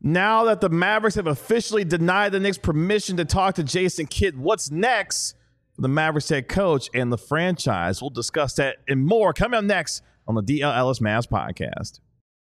Now that the Mavericks have officially denied the Knicks permission to talk to Jason Kidd, what's next for the Mavericks head coach and the franchise? We'll discuss that and more coming up next on the DL Ellis Mavs podcast.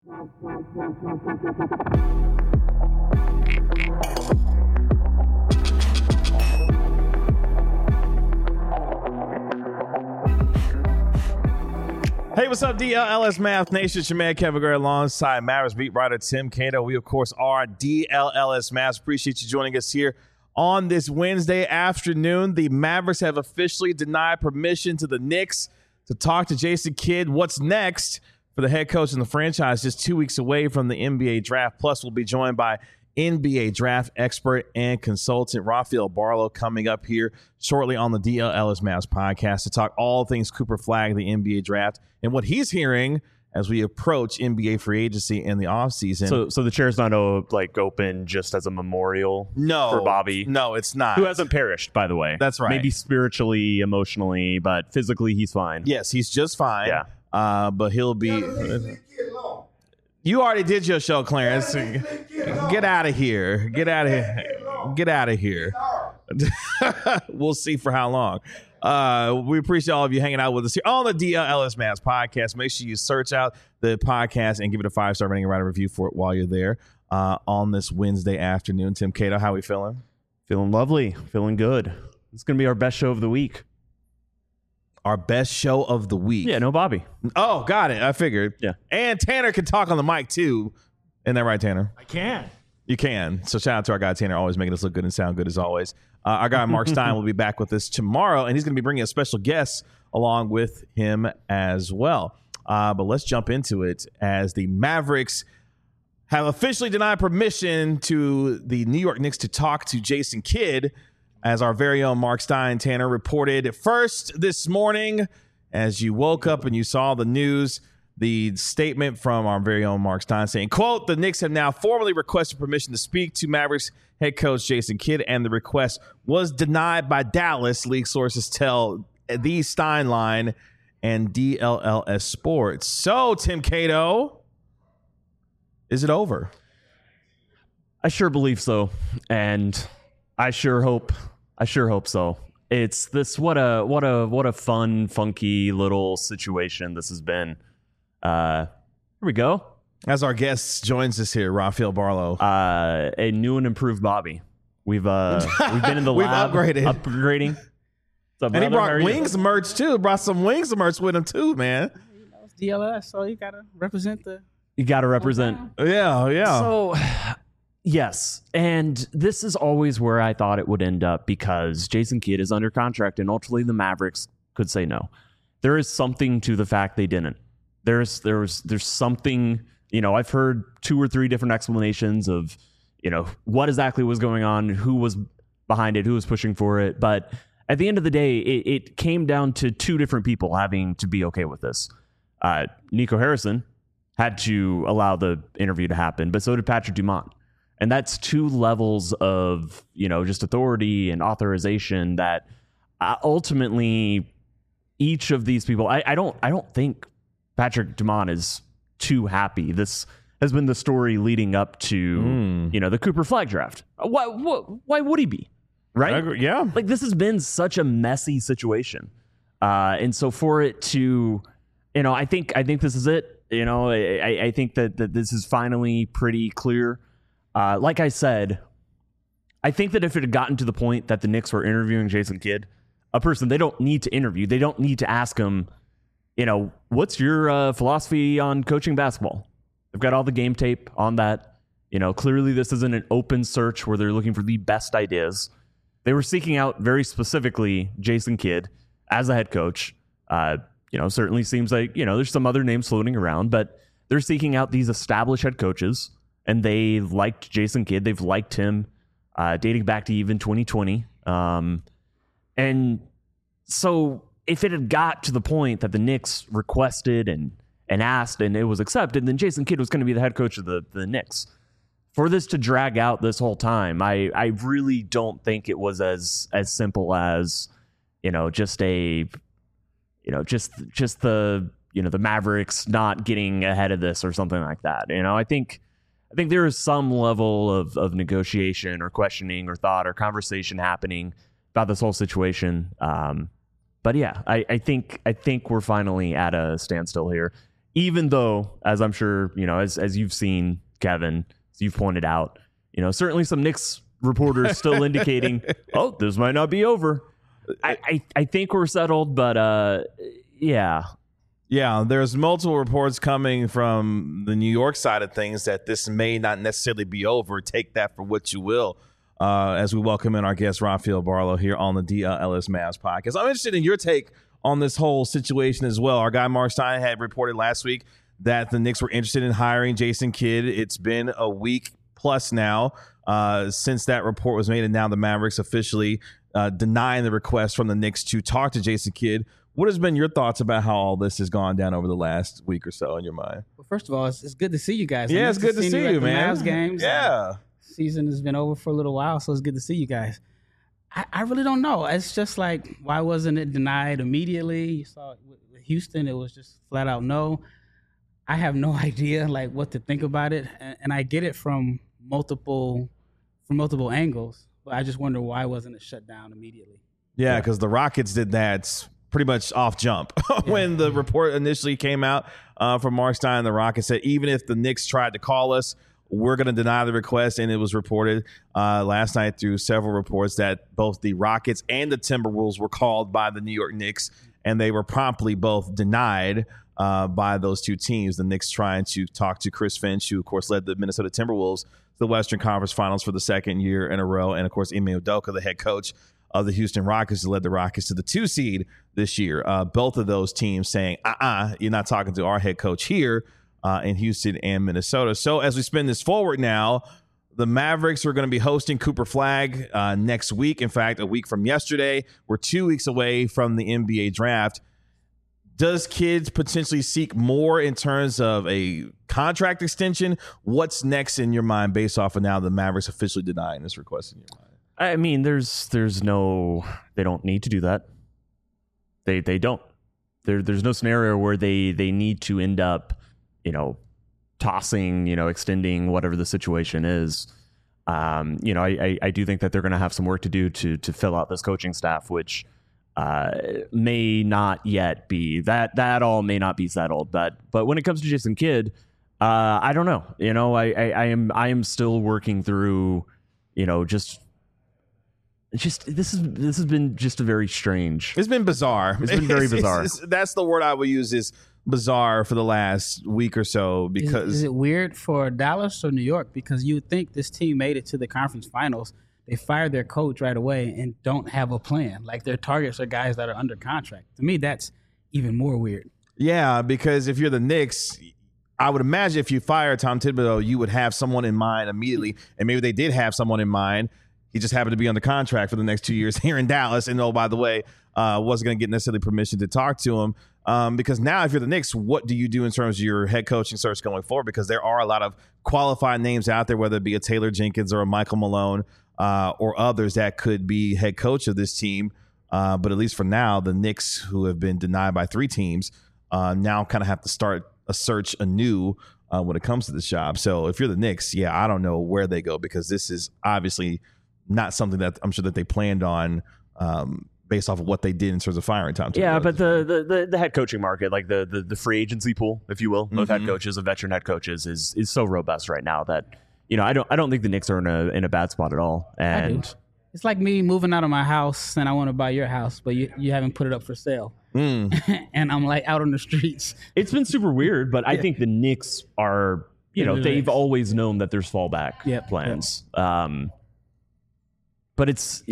Hey, what's up, DLLS Mavs Nation? It's your man, Kevin Gray, alongside Mavericks beat writer Tim Cato. We, of course, are DLLS Mavs. Appreciate you joining us here on this Wednesday afternoon. The Mavericks have officially denied permission to the Knicks to talk to Jason Kidd. What's next for the head coach and the franchise just 2 weeks away from the NBA draft? Plus, we'll be joined by NBA draft expert and consultant Rafael Barlow coming up here shortly on the DL Ellis Mavs podcast to talk all things Cooper Flagg, the NBA draft, and what he's hearing as we approach NBA free agency in the offseason. So the chair's not open just as a memorial for Bobby? No, it's not. Who hasn't perished, by the way. That's right. Maybe spiritually, emotionally, but physically he's fine. Yes, he's just fine. Yeah. But he'll be... You already did your show, Clarence. Get out of here. Get out of here. Get out of here. We'll see for how long. We appreciate all of you hanging out with us here on the DL Ellis Mavs podcast. Make sure you search out the podcast and give it a 5-star rating and write a review for it while you're there on this Wednesday afternoon. Tim Cato, how we feeling? Feeling lovely. Feeling good. It's going to be our best show of the week. Our best show of the week. Yeah, no Bobby. Oh, got it. I figured. Yeah. And Tanner can talk on the mic, too. Isn't that right, Tanner? I can. You can. So shout out to our guy, Tanner, always making us look good and sound good as always. Our guy, Mark Stein, will be back with us tomorrow, and he's going to be bringing a special guest along with him as well. But let's jump into it as the Mavericks have officially denied permission to the New York Knicks to talk to Jason Kidd, as our very own Mark Stein, Tanner, reported first this morning. As you woke up and you saw the news, the statement from our very own Mark Stein saying, quote, the Knicks have now formally requested permission to speak to Mavericks head coach Jason Kidd, and the request was denied by Dallas, league sources tell the Stein Line and DLLS Sports. So, Tim Cato, is it over? I sure believe so, and I sure hope so. It's this what a fun, funky little situation this has been. Here we go. As our guest joins us here, Rafael Barlow. A new and improved Bobby. We've been in the lab upgrading. And he brought Wings merch too. Brought some Wings merch with him too, man. You know, it's DLS, so you gotta represent the. You gotta represent. Yeah. So. Yes, and this is always where I thought it would end up because Jason Kidd is under contract and ultimately the Mavericks could say no. There is something to the fact they didn't. There's something, I've heard 2 or 3 different explanations of, what exactly was going on, who was behind it, who was pushing for it. But at the end of the day, it came down to 2 different people having to be okay with this. Nico Harrison had to allow the interview to happen, but so did Patrick Dumont. And that's 2 levels of, just authority and authorization that ultimately each of these people, I don't think Patrick Dumont is too happy. This has been the story leading up to, the Cooper Flagg draft. Why would he be? Right? Yeah. Like this has been such a messy situation. And so for it to, I think this is it. I think that this is finally pretty clear. Like I said, I think that if it had gotten to the point that the Knicks were interviewing Jason Kidd, a person they don't need to interview, they don't need to ask him, what's your philosophy on coaching basketball? They've got all the game tape on that. Clearly this isn't an open search where they're looking for the best ideas. They were seeking out very specifically Jason Kidd as a head coach. Certainly seems like, there's some other names floating around, but they're seeking out these established head coaches. And they liked Jason Kidd. They've liked him dating back to even 2020. And so if it had got to the point that the Knicks requested and asked and it was accepted, then Jason Kidd was going to be the head coach of the Knicks. For this to drag out this whole time, I really don't think it was as simple as, just the Mavericks not getting ahead of this or something like that. I think I think there is some level of negotiation or questioning or thought or conversation happening about this whole situation. But yeah, I think we're finally at a standstill here, even though, as I'm sure, as you've seen, Kevin, as you've pointed out, certainly some Knicks reporters still indicating, oh, this might not be over. I think we're settled, but yeah. Yeah, there's multiple reports coming from the New York side of things that this may not necessarily be over. Take that for what you will. As we welcome in our guest, Rafael Barlow, here on the DLS Mavs podcast. I'm interested in your take on this whole situation as well. Our guy, Mark Stein, had reported last week that the Knicks were interested in hiring Jason Kidd. It's been a week plus now since that report was made, and now the Mavericks officially denying the request from the Knicks to talk to Jason Kidd. What has been your thoughts about how all this has gone down over the last week or so in your mind? Well, first of all, it's good to see you guys. Yeah, it's good to see you, man. Mavs games. Yeah. Season has been over for a little while, so it's good to see you guys. I really don't know. It's just like, why wasn't it denied immediately? You saw it with Houston, it was just flat out no. I have no idea like what to think about it, and I get it from multiple angles, but I just wonder why wasn't it shut down immediately? Yeah, because the Rockets did that pretty much off jump when the report initially came out from Mark Stein. The Rockets said even if the Knicks tried to call us, we're going to deny the request. And it was reported last night through several reports that both the Rockets and the Timberwolves were called by the New York Knicks, and they were promptly both denied by those two teams. The Knicks trying to talk to Chris Finch, who of course led the Minnesota Timberwolves to the Western Conference Finals for the second year in a row, and of course Ime Udoka, the head coach of the Houston Rockets, who led the Rockets to the 2 seed this year. Both of those teams saying, you're not talking to our head coach here in Houston and Minnesota. So as we spin this forward now, the Mavericks are going to be hosting Cooper Flagg next week. In fact, a week from yesterday. We're 2 weeks away from the NBA draft. Does Kidd potentially seek more in terms of a contract extension? What's next in your mind based off of now the Mavericks officially denying this request in your mind? I mean, there's no, they don't need to do that. They don't. There's no scenario where they need to end up, tossing, extending whatever the situation is. I do think that they're going to have some work to do to fill out this coaching staff, which may not yet be that all may not be settled. But when it comes to Jason Kidd, I don't know. I am still working through, this has been just a very strange. It's been bizarre. It's been very bizarre. That's the word I would use, is bizarre, for the last week or so. Because is it weird for Dallas or New York? Because you would think this team made it to the conference finals. They fired their coach right away and don't have a plan. Like, their targets are guys that are under contract. To me, that's even more weird. Yeah, because if you're the Knicks, I would imagine if you fire Tom Thibodeau, you would have someone in mind immediately. And maybe they did have someone in mind. He just happened to be under contract for the next 2 years here in Dallas. And, oh, by the way, wasn't going to get necessarily permission to talk to him. Because now if you're the Knicks, what do you do in terms of your head coaching search going forward? Because there are a lot of qualified names out there, whether it be a Taylor Jenkins or a Michael Malone or others that could be head coach of this team. But at least for now, the Knicks, who have been denied by 3 teams, now kind of have to start a search anew when it comes to this job. So if you're the Knicks, I don't know where they go, because this is obviously not something that I'm sure that they planned on based off of what they did in terms of firing Tom Thibodeau. Yeah, but the head coaching market, like the free agency pool, if you will, of head coaches, of veteran head coaches, is so robust right now that I don't think the Knicks are in a bad spot at all. And it's like me moving out of my house and I want to buy your house, but you haven't put it up for sale. And I'm like out on the streets. It's been super weird, but I think the Knicks are, they've always known that there's fallback plans. But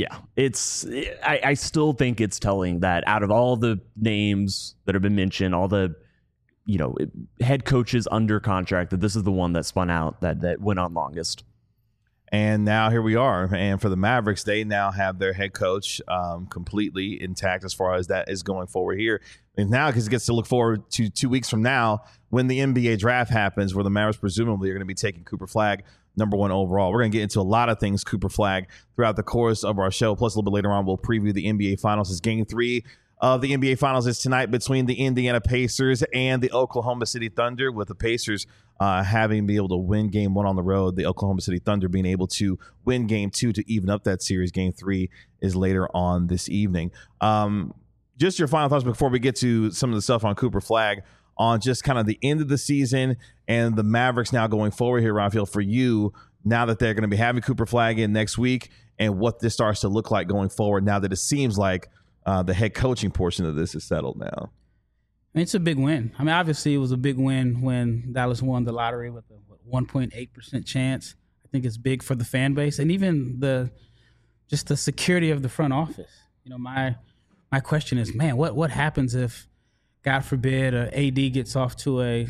I still think it's telling that out of all the names that have been mentioned, all the, head coaches under contract, that this is the one that spun out, that went on longest. And now here we are. And for the Mavericks, they now have their head coach completely intact as far as that is going forward here. And now because it gets to look forward to 2 weeks from now when the NBA draft happens, where the Mavericks presumably are going to be taking Cooper Flagg #1 overall. We're going to get into a lot of things Cooper Flagg throughout the course of our show. Plus, a little bit later on, we'll preview the NBA Finals as Game 3 of the NBA Finals is tonight between the Indiana Pacers and the Oklahoma City Thunder, with the Pacers having been able to win Game 1 on the road, the Oklahoma City Thunder being able to win Game 2 to even up that series. Game 3 is later on this evening. Just your final thoughts before we get to some of the stuff on Cooper Flagg, on just kind of the end of the season and the Mavericks now going forward here, Rafael, for you, now that they're going to be having Cooper Flagg in next week, and what this starts to look like going forward now that it seems like the head coaching portion of this is settled now. It's a big win. I mean, obviously it was a big win when Dallas won the lottery with a 1.8% chance. I think it's big for the fan base and even the security of the front office. You know, my question is, man, what happens if, God forbid, AD gets off to a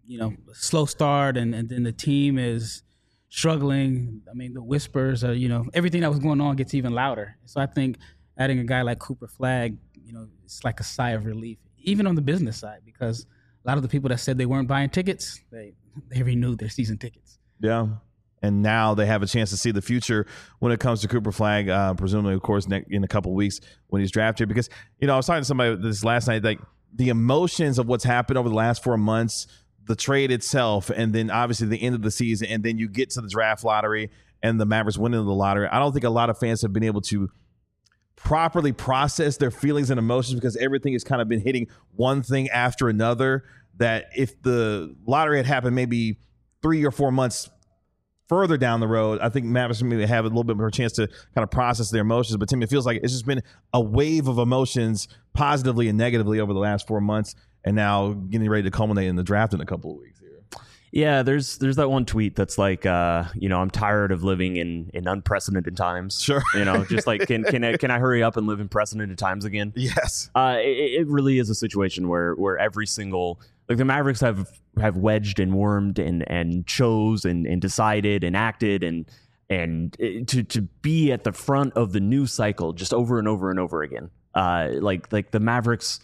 slow start and then the team is struggling? I mean, the whispers are, everything that was going on gets even louder. So I think adding a guy like Cooper Flagg, it's like a sigh of relief, even on the business side, because a lot of the people that said they weren't buying tickets, they renewed their season tickets. Yeah. And now they have a chance to see the future when it comes to Cooper Flagg, presumably, of course, in a couple of weeks when he's drafted. Because, I was talking to somebody this last night, like the emotions of what's happened over the last 4 months, the trade itself, and then obviously the end of the season, and then you get to the draft lottery and the Mavericks winning the lottery. I don't think a lot of fans have been able to properly process their feelings and emotions, because everything has kind of been hitting one thing after another, that if the lottery had happened maybe 3 or 4 months further down the road, I think Mavericks maybe have a little bit more chance to kind of process their emotions. But Tim, it feels like it's just been a wave of emotions, positively and negatively, over the last 4 months, and now getting ready to culminate in the draft in a couple of weeks here. Yeah, there's that one tweet that's like, I'm tired of living in unprecedented times. Sure. Just like, can I hurry up and live in precedented times again? Yes. It really is a situation where every single, like, the Mavericks have wedged and wormed and chose and decided and acted and to be at the front of the news cycle just over and over and over again. Like the Mavericks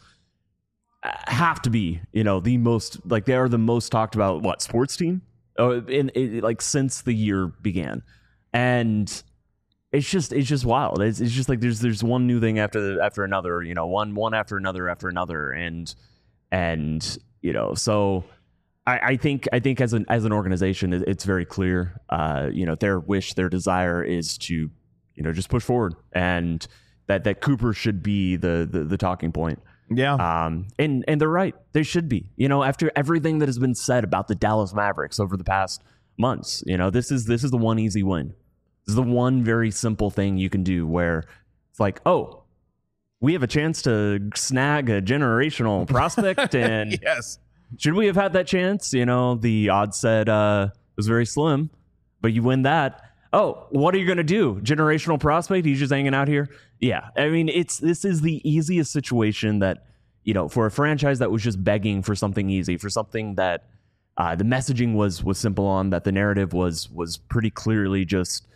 have to be, the most, like, they are the most talked about sports team like since the year began. And it's just wild. It's just like there's one new thing after another, one after another. And so I think as an organization, it's very clear, their desire is to, just push forward, and that Cooper should be the talking point. Yeah. And they're right. They should be, after everything that has been said about the Dallas Mavericks over the past months, this is the one easy win. This is the one very simple thing you can do where it's like, oh, we have a chance to snag a generational prospect. And yes, should we have had that chance? The odds said it was very slim, but you win that. Oh, what are you going to do? Generational prospect? He's just hanging out here? Yeah. I mean, this is the easiest situation that, for a franchise that was just begging for something easy, for something that the messaging was simple on, that the narrative was pretty clearly just,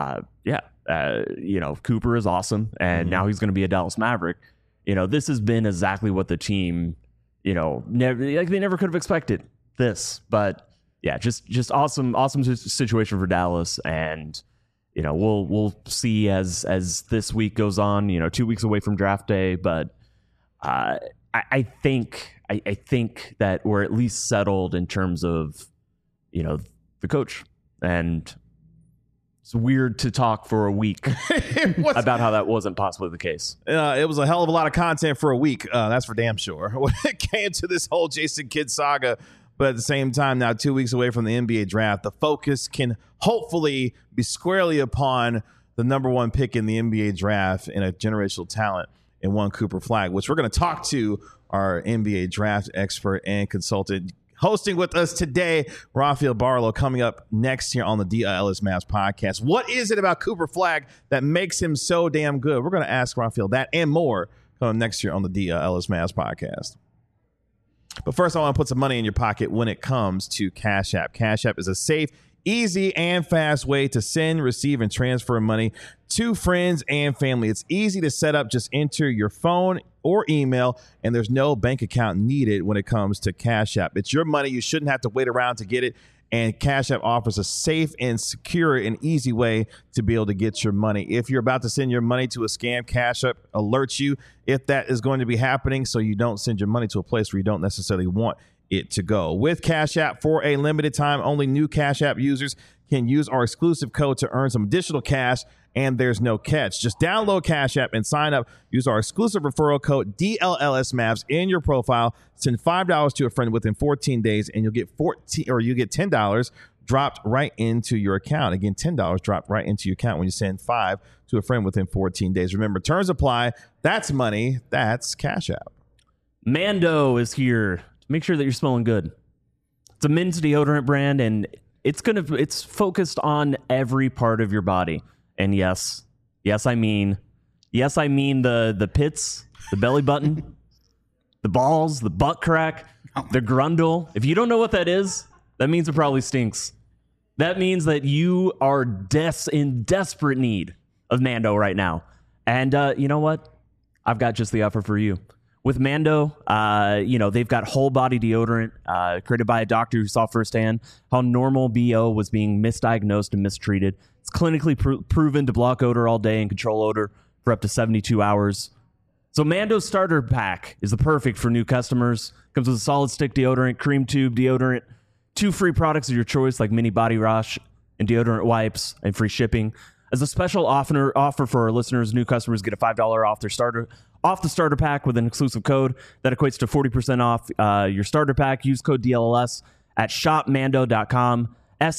Cooper is awesome, and now he's going to be a Dallas Maverick. This has been exactly what the team, they never could have expected this, but yeah, just awesome situation for Dallas. And, we'll see as this week goes on, 2 weeks away from draft day. But I think that we're at least settled in terms of, the coach. And it's weird to talk for a week about how that wasn't possibly the case. It was a hell of a lot of content for a week. That's for damn sure. When it came to this whole Jason Kidd saga. But at the same time, now 2 weeks away from the NBA draft, the focus can hopefully be squarely upon the number one pick in the NBA draft and a generational talent in one Cooper Flagg, which we're going to talk to our NBA draft expert and consultant. Hosting with us today, Rafael Barlow, coming up next here on the DLS Mavs podcast. What is it about Cooper Flagg that makes him so damn good? We're going to ask Rafael that and more coming next year on the DLS Mavs podcast. But first, I want to put some money in your pocket when it comes to Cash App. Cash App is a safe, easy, and fast way to send, receive, and transfer money to friends and family. It's easy to set up. Just enter your phone or email, and there's no bank account needed when it comes to Cash App. It's your money. You shouldn't have to wait around to get it. and Cash App offers a safe and secure and easy way to be able to get your money. If you're about to send your money to a scam, Cash App alerts you if that is going to be happening, so you don't send your money to a place where you don't necessarily want it to go. With Cash App, for a limited time, only new Cash App users can use our exclusive code to earn some additional cash, and there's no catch. Just download Cash App and sign up. Use our exclusive referral code DLLSMavs in your profile. Send $5 to a friend within 14 days, and you'll get $10 dropped right into your account. Again, $10 dropped right into your account when you send $5 to a friend within 14 days. Remember, terms apply. That's money. That's Cash App. Mando is here to make sure that you're smelling good. It's a men's deodorant brand, and it's focused on every part of your body. And yes, I mean the pits, the belly button, the balls, the butt crack, the grundle. If you don't know what that is, that means it probably stinks. That means that you are in desperate need of Mando right now. And you know what? I've got just the offer for you. With Mando, they've got whole body deodorant created by a doctor who saw firsthand how normal BO was being misdiagnosed and mistreated. It's clinically proven to block odor all day and control odor for up to 72 hours. So Mando's starter pack is the perfect for new customers. Comes with a solid stick deodorant, cream tube deodorant, 2 free products of your choice like mini body wash and deodorant wipes, and free shipping. As a special offer for our listeners, new customers get a $5 off the starter pack with an exclusive code that equates to 40% off your starter pack. Use code DLLS at shopmando.com,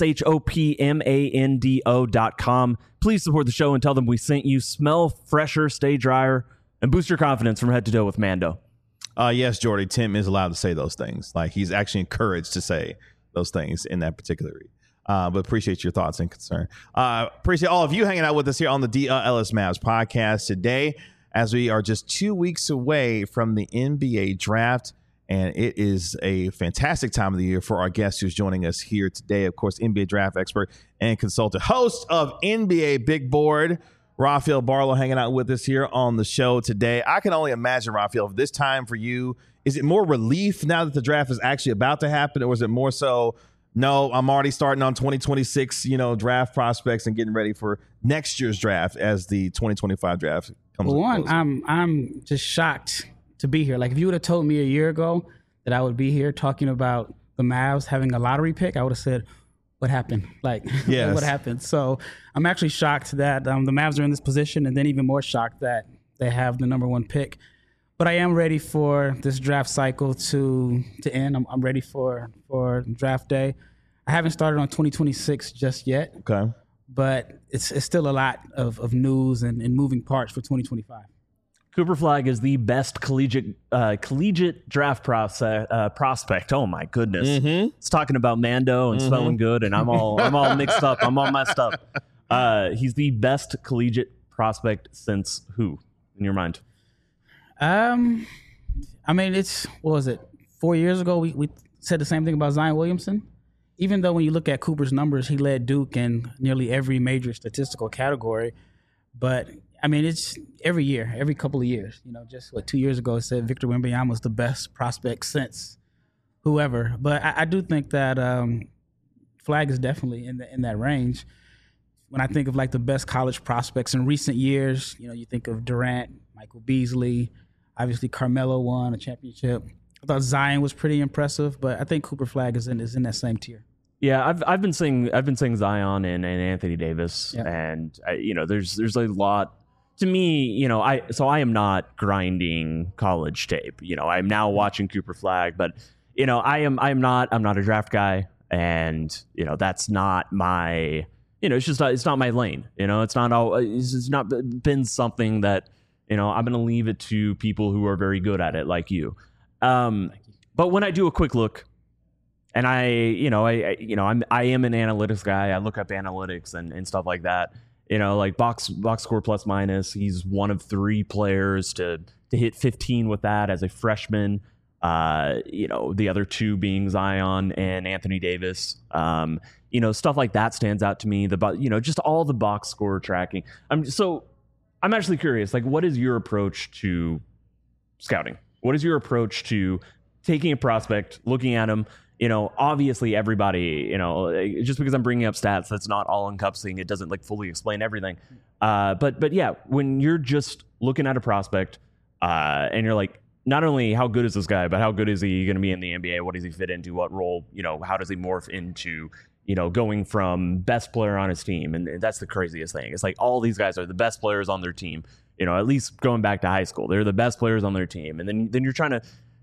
shopmando.com. Please support the show and tell them we sent you. Smell fresher, stay drier, and boost your confidence from head to toe with Mando. Yes, Jordy, Tim is allowed to say those things. Like, he's actually encouraged to say those things in that particular read. But appreciate your thoughts and concern. Appreciate all of you hanging out with us here on the DLS Mavs podcast today, as we are just 2 weeks away from the NBA draft. And it is a fantastic time of the year for our guest who's joining us here today. Of course, NBA draft expert and consultant, host of NBA Big Board, Rafael Barlow, hanging out with us here on the show today. I can only imagine, Rafael, this time for you, is it more relief now that the draft is actually about to happen, or is it more so, no, I'm already starting on 2026, draft prospects and getting ready for next year's draft as the 2025 draft comes? Well, I'm just shocked to be here. Like, if you would have told me a year ago that I would be here talking about the Mavs having a lottery pick, I would have said, what happened? Like, yes. What happened? So I'm actually shocked that the Mavs are in this position, and then even more shocked that they have the number 1 pick. But I am ready for this draft cycle to end. I'm ready for draft day. I haven't started on 2026 just yet. Okay. But it's still a lot of news and moving parts for 2025. Cooper Flagg is the best collegiate draft prospect. Oh my goodness! Mm-hmm. It's talking about Mando and smelling good, and I'm all mixed up. I'm all messed up. He's the best collegiate prospect since who, in your mind? I mean, what was it? 4 years ago, we said the same thing about Zion Williamson. Even though when you look at Cooper's numbers, he led Duke in nearly every major statistical category. But I mean, it's every year, every couple of years. Just 2 years ago, it said Victor Wembanyama was the best prospect since whoever. But I do think that Flagg is definitely in that range. When I think of like the best college prospects in recent years, you think of Durant, Michael Beasley, obviously Carmelo won a championship. I thought Zion was pretty impressive, but I think Cooper Flagg is in that same tier. Yeah, I've been saying Zion and Anthony Davis, yeah. And there's a lot to me. I am not grinding college tape. I'm now watching Cooper Flagg, but I'm not a draft guy, and that's not my it's not my lane. It's not been something that I'm gonna leave it to people who are very good at it, like you. But when I do a quick look, and I am an analytics guy. I look up analytics and stuff like that. Like box score plus minus. He's one of 3 players to hit 15 with that as a freshman. The other 2 being Zion and Anthony Davis. Stuff like that stands out to me. Just all the box score tracking. I'm actually curious. Like, what is your approach to scouting? What is your approach to taking a prospect, looking at him, Obviously everybody, just because I'm bringing up stats, that's not all encompassing. It doesn't like fully explain everything. But yeah, when you're just looking at a prospect and you're like, not only how good is this guy, but how good is he going to be in the NBA? What does he fit into? What role? How does he morph into, going from best player on his team? And that's the craziest thing. It's like all these guys are the best players on their team. At least going back to high school, they're the best players on their team. And then you're trying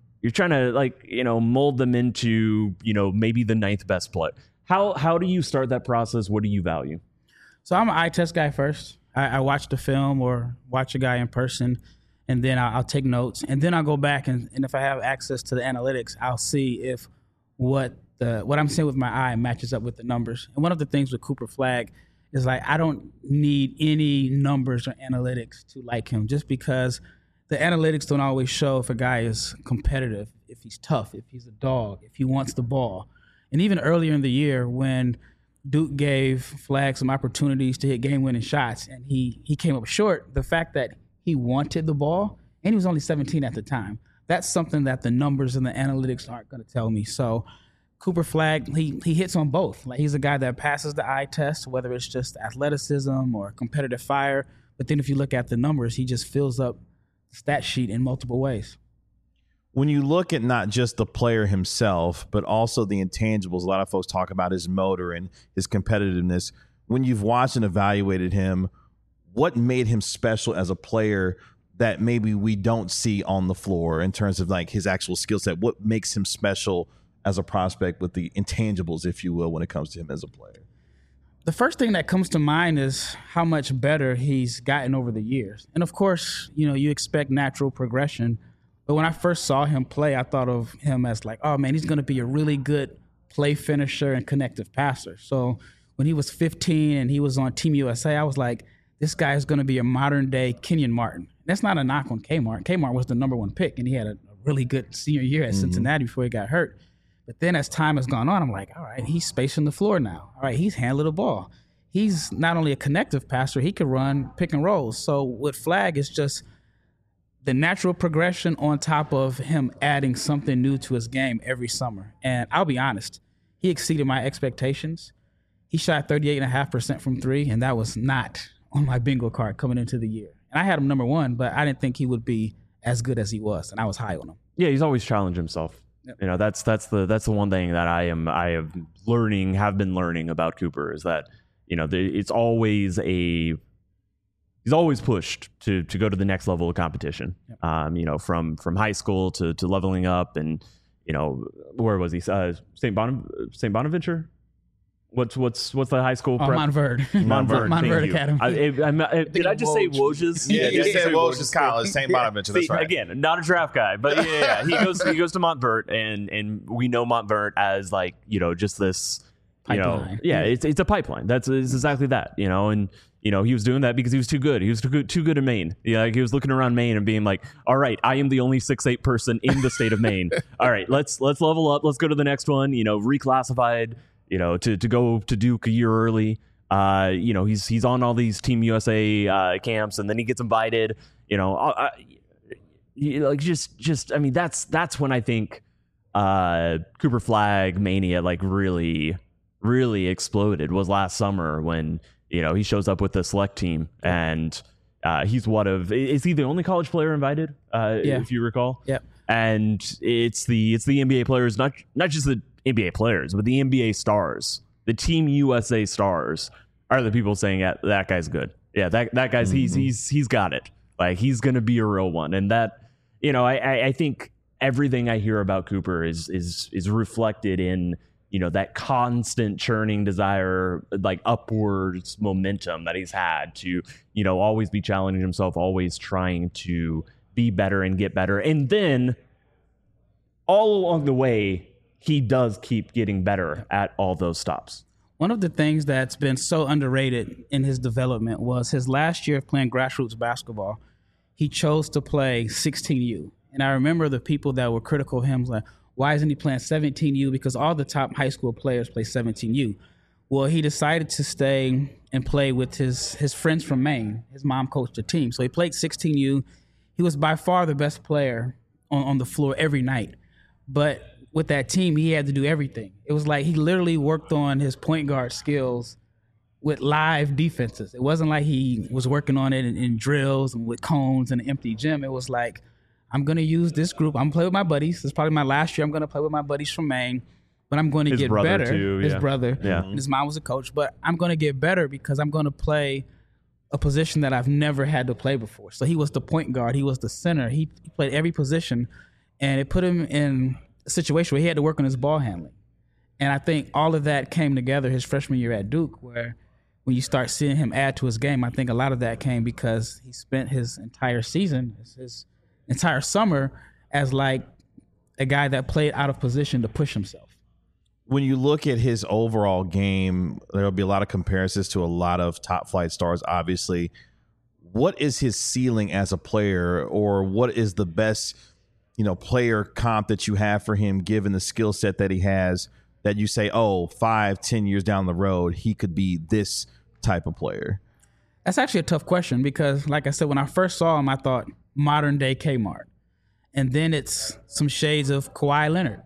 to like, mold them into, maybe the 9th best player. How do you start that process? What do you value? So I'm an eye test guy first. I watch the film or watch a guy in person, and then I'll take notes. And then I'll go back, and if I have access to the analytics, I'll see if what I'm seeing with my eye matches up with the numbers. And one of the things with Cooper Flagg is like, I don't need any numbers or analytics to like him, just because the analytics don't always show if a guy is competitive, if he's tough, if he's a dog, if he wants the ball. And even earlier in the year when Duke gave Flagg some opportunities to hit game-winning shots and he came up short, the fact that he wanted the ball, and he was only 17 at the time, that's something that the numbers and the analytics aren't going to tell me. So Cooper Flagg, he hits on both. Like, he's a guy that passes the eye test, whether it's just athleticism or competitive fire. But then if you look at the numbers, he just fills up the stat sheet in multiple ways. When you look at not just the player himself, but also the intangibles, a lot of folks talk about his motor and his competitiveness. When you've watched and evaluated him, what made him special as a player that maybe we don't see on the floor in terms of like his actual skill set? What makes him special as a prospect with the intangibles, if you will, when it comes to him as a player? The first thing that comes to mind is how much better he's gotten over the years. And of course, you expect natural progression. But when I first saw him play, I thought of him as like, oh man, he's going to be a really good play finisher and connective passer. So when he was 15 and he was on Team USA, I was like, this guy is going to be a modern day Kenyon Martin. That's not a knock on Kmart. Kmart was the number 1 pick, and he had a really good senior year at Cincinnati before he got hurt. But then as time has gone on, I'm like, all right, he's spacing the floor now. All right, he's handling the ball. He's not only a connective passer, he could run pick and rolls. So with Flagg, it's just the natural progression on top of him adding something new to his game every summer. And I'll be honest, he exceeded my expectations. He shot 38.5% from 3, and that was not on my bingo card coming into the year. And I had him number 1, but I didn't think he would be as good as he was, and I was high on him. Yeah, he's always challenged himself. Yep. That's the one thing that I have been learning about Cooper is that it's always he's always pushed to go to the next level of competition. Yep. From high school to leveling up, and where was he? St. Bonaventure. What's the high school? Montverde. Montverde Academy. Did I just say Woj's? Yeah, you said Woj's College, St. Bonaventure. That's right. Again, not a draft guy, but yeah. He goes to Montverde, and we know Montverde as like just this pipeline. It's a pipeline. It's exactly that. And he was doing that because he was too good. He was too good in Maine. Like he was looking around Maine and being like, all right, I am the only 6'8" person in the state of Maine. All right, let's level up. Let's go to the next one. Reclassified. To go to Duke a year early. He's on all these Team USA camps, and then he gets invited. That's when I think Cooper Flagg mania like really, really exploded. Was last summer when he shows up with the select team, and he's is he the only college player invited? If you recall. Yep. And it's the NBA players, not just the NBA players, but the NBA stars, the Team USA stars are the people saying that guy's good. Yeah, that guy's he's got it. Like he's gonna be a real one. And that I think everything I hear about Cooper is reflected in that constant churning desire, like upwards momentum that he's had to always be challenging himself, always trying to be better and get better, and then all along the way, he does keep getting better at all those stops. One of the things that's been so underrated in his development was his last year of playing grassroots basketball. He chose to play 16U. And I remember the people that were critical of him, like, why isn't he playing 17U? Because all the top high school players play 17U. Well, he decided to stay and play with his friends from Maine. His mom coached the team. So he played 16U. He was by far the best player on the floor every night. But with that team, he had to do everything. It was like he literally worked on his point guard skills with live defenses. It wasn't like he was working on it in drills and with cones and an empty gym. It was like, I'm going to use this group. I'm going to play with my buddies. It's probably my last year. I'm going to play with my buddies from Maine, but I'm going to get better. His brother. Yeah. His mom was a coach, but I'm going to get better because I'm going to play a position that I've never had to play before. So he was the point guard. He was the center. He played every position, and it put him in a situation where he had to work on his ball handling. And I think all of that came together his freshman year at Duke, where when you start seeing him add to his game, I think a lot of that came because he spent his entire season, his entire summer, as like a guy that played out of position to push himself. When you look at his overall game, there'll be a lot of comparisons to a lot of top flight stars, obviously. What is his ceiling as a player, or what is the best, player comp that you have for him, given the skill set that he has, that you say, 5-10 years down the road, he could be this type of player? That's actually a tough question because, like I said, when I first saw him, I thought modern day Kmart. And then it's some shades of Kawhi Leonard.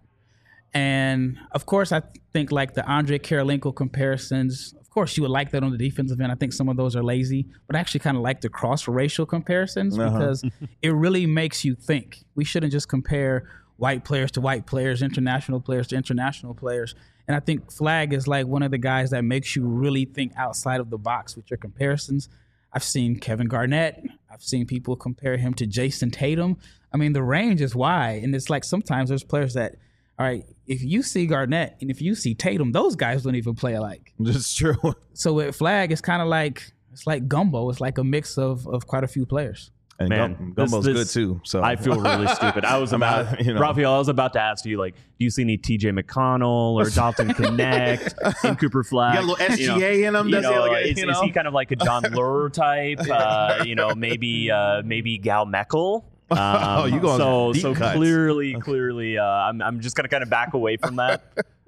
And of course, I think like the Andre Karolinko comparisons, of course, you would like that on the defensive end. I think some of those are lazy, but I actually kind of like the cross-racial comparisons because it really makes you think. We shouldn't just compare white players to white players, international players to international players. And I think Flagg is like one of the guys that makes you really think outside of the box with your comparisons. I've seen Kevin Garnett. I've seen people compare him to Jason Tatum. I mean, the range is wide. And it's like sometimes there's players that, all right, if you see Garnett and if you see Tatum, those guys don't even play alike. That's true. So with Flagg, it's kind of like, it's like gumbo. It's like a mix of quite a few players. And man, Gumbo's good too. So I feel really stupid. I was about, Raphael, I was about to ask you, like, do you see any TJ McConnell or Dalton Connect in Cooper Flagg? You got a little SGA in him. Is he kind of like a John Lure type? Maybe Gal Meckel. You going so clearly, I'm just gonna kind of back away from that.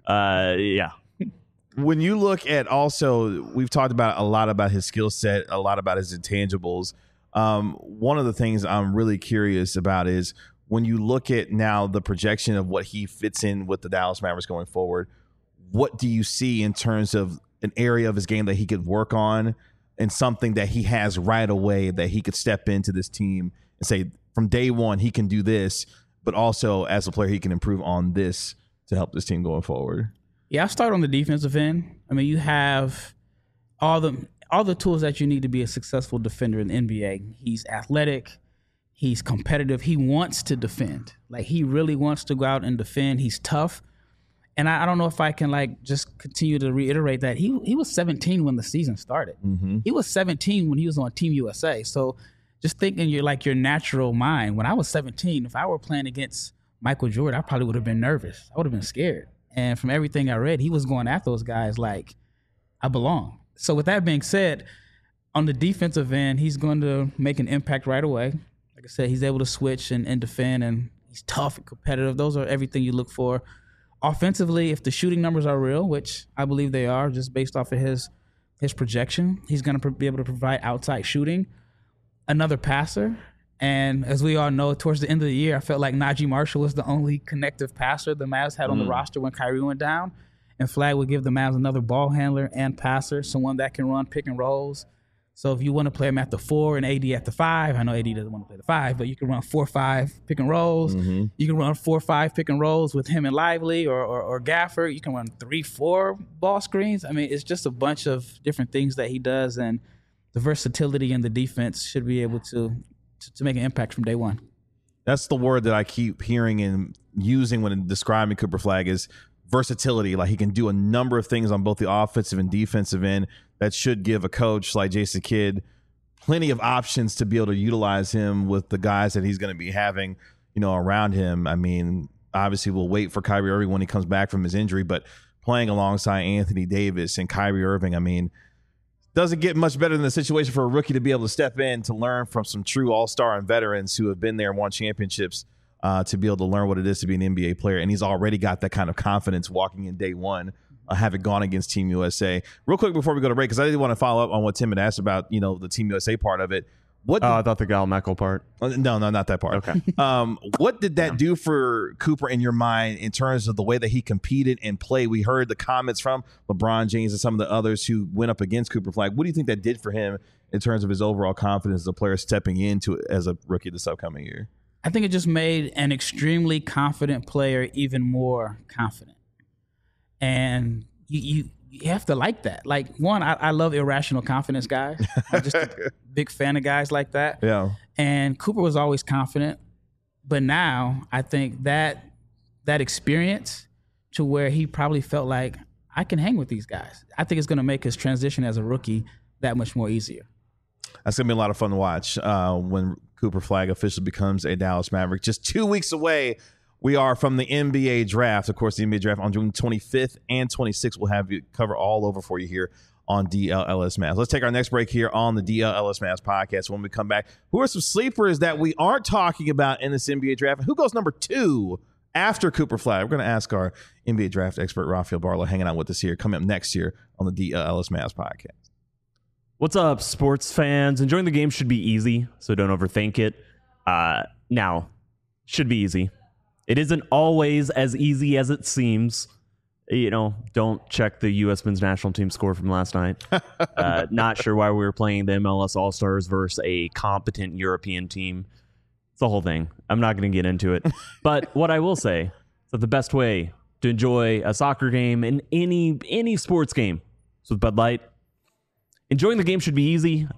Yeah. When you look at also, we've talked about a lot about his skill set, a lot about his intangibles. One of the things I'm really curious about is when you look at now the projection of what he fits in with the Dallas Mavericks going forward, what do you see in terms of an area of his game that he could work on and something that he has right away that he could step into this team and say from day one, he can do this, but also as a player, he can improve on this to help this team going forward? Yeah, I'll start on the defensive end. I mean, you have all the tools that you need to be a successful defender in the NBA. He's athletic. He's competitive. He wants to defend. Like, he really wants to go out and defend. He's tough. And I don't know if I can, like, just continue to reiterate that. He was 17 when the season started. Mm-hmm. He was 17 when he was on Team USA. So just thinking your natural mind. When I was 17, if I were playing against Michael Jordan, I probably would have been nervous. I would have been scared. And from everything I read, he was going after those guys like, I belong. So with that being said, on the defensive end, he's going to make an impact right away. Like I said, he's able to switch and defend, and he's tough and competitive. Those are everything you look for. Offensively, if the shooting numbers are real, which I believe they are, just based off of his projection, he's going to be able to provide outside shooting. Another passer. And as we all know, towards the end of the year, I felt like Najee Marshall was the only connective passer the Mavs had on the roster when Kyrie went down. And Flagg would give the Mavs another ball handler and passer, someone that can run pick and rolls. So if you want to play him at the 4 and AD at the 5, I know AD doesn't want to play the 5, but you can run 4-5 pick and rolls. Mm-hmm. You can run 4-5 pick and rolls with him and Lively or Gafford. You can run 3-4 ball screens. I mean, it's just a bunch of different things that he does, and the versatility in the defense should be able to make an impact from day one. That's the word that I keep hearing and using when describing Cooper Flagg is versatility. Like, he can do a number of things on both the offensive and defensive end that should give a coach like Jason Kidd plenty of options to be able to utilize him with the guys that he's going to be having, around him. I mean, obviously we'll wait for Kyrie Irving when he comes back from his injury, but playing alongside Anthony Davis and Kyrie Irving, I mean, doesn't get much better than the situation for a rookie to be able to step in to learn from some true all-star and veterans who have been there and won championships, to be able to learn what it is to be an NBA player. And he's already got that kind of confidence walking in day one, having gone against Team USA. Real quick before we go to break, because I did want to follow up on what Tim had asked about, the Team USA part of it. What? I thought the Gal Meckel part. No, not that part. Okay. What did that do for Cooper in your mind in terms of the way that he competed and played? We heard the comments from LeBron James and some of the others who went up against Cooper Flag. What do you think that did for him in terms of his overall confidence as a player stepping into it as a rookie this upcoming year? I think it just made an extremely confident player even more confident. And you have to like that. Like, one, I love irrational confidence guys. I'm just a big fan of guys like that. Yeah. And Cooper was always confident. But now I think that experience to where he probably felt like, I can hang with these guys. I think it's going to make his transition as a rookie that much more easier. That's going to be a lot of fun to watch when Cooper Flag officially becomes a Dallas Maverick. Just 2 weeks away, we are from the NBA draft. Of course, the NBA draft on June 25th and 26th. We'll have you cover all over for you here on DLLS Mavs. Let's take our next break here on the DLLS Mavs podcast. When we come back, who are some sleepers that we aren't talking about in this NBA draft? And who goes number 2 after Cooper Flag? We're going to ask our NBA draft expert, Rafael Barlow, hanging out with us here, coming up next year on the DLLS Mavs podcast. What's up, sports fans? Enjoying the game should be easy, so don't overthink it. Now, should be easy. It isn't always as easy as it seems. You know, don't check the U.S. men's national team score from last night. Not sure why we were playing the MLS All-Stars versus a competent European team. It's the whole thing. I'm not going to get into it. But what I will say is that the best way to enjoy a soccer game and any sports game is with Bud Light. Enjoying the game should be easy.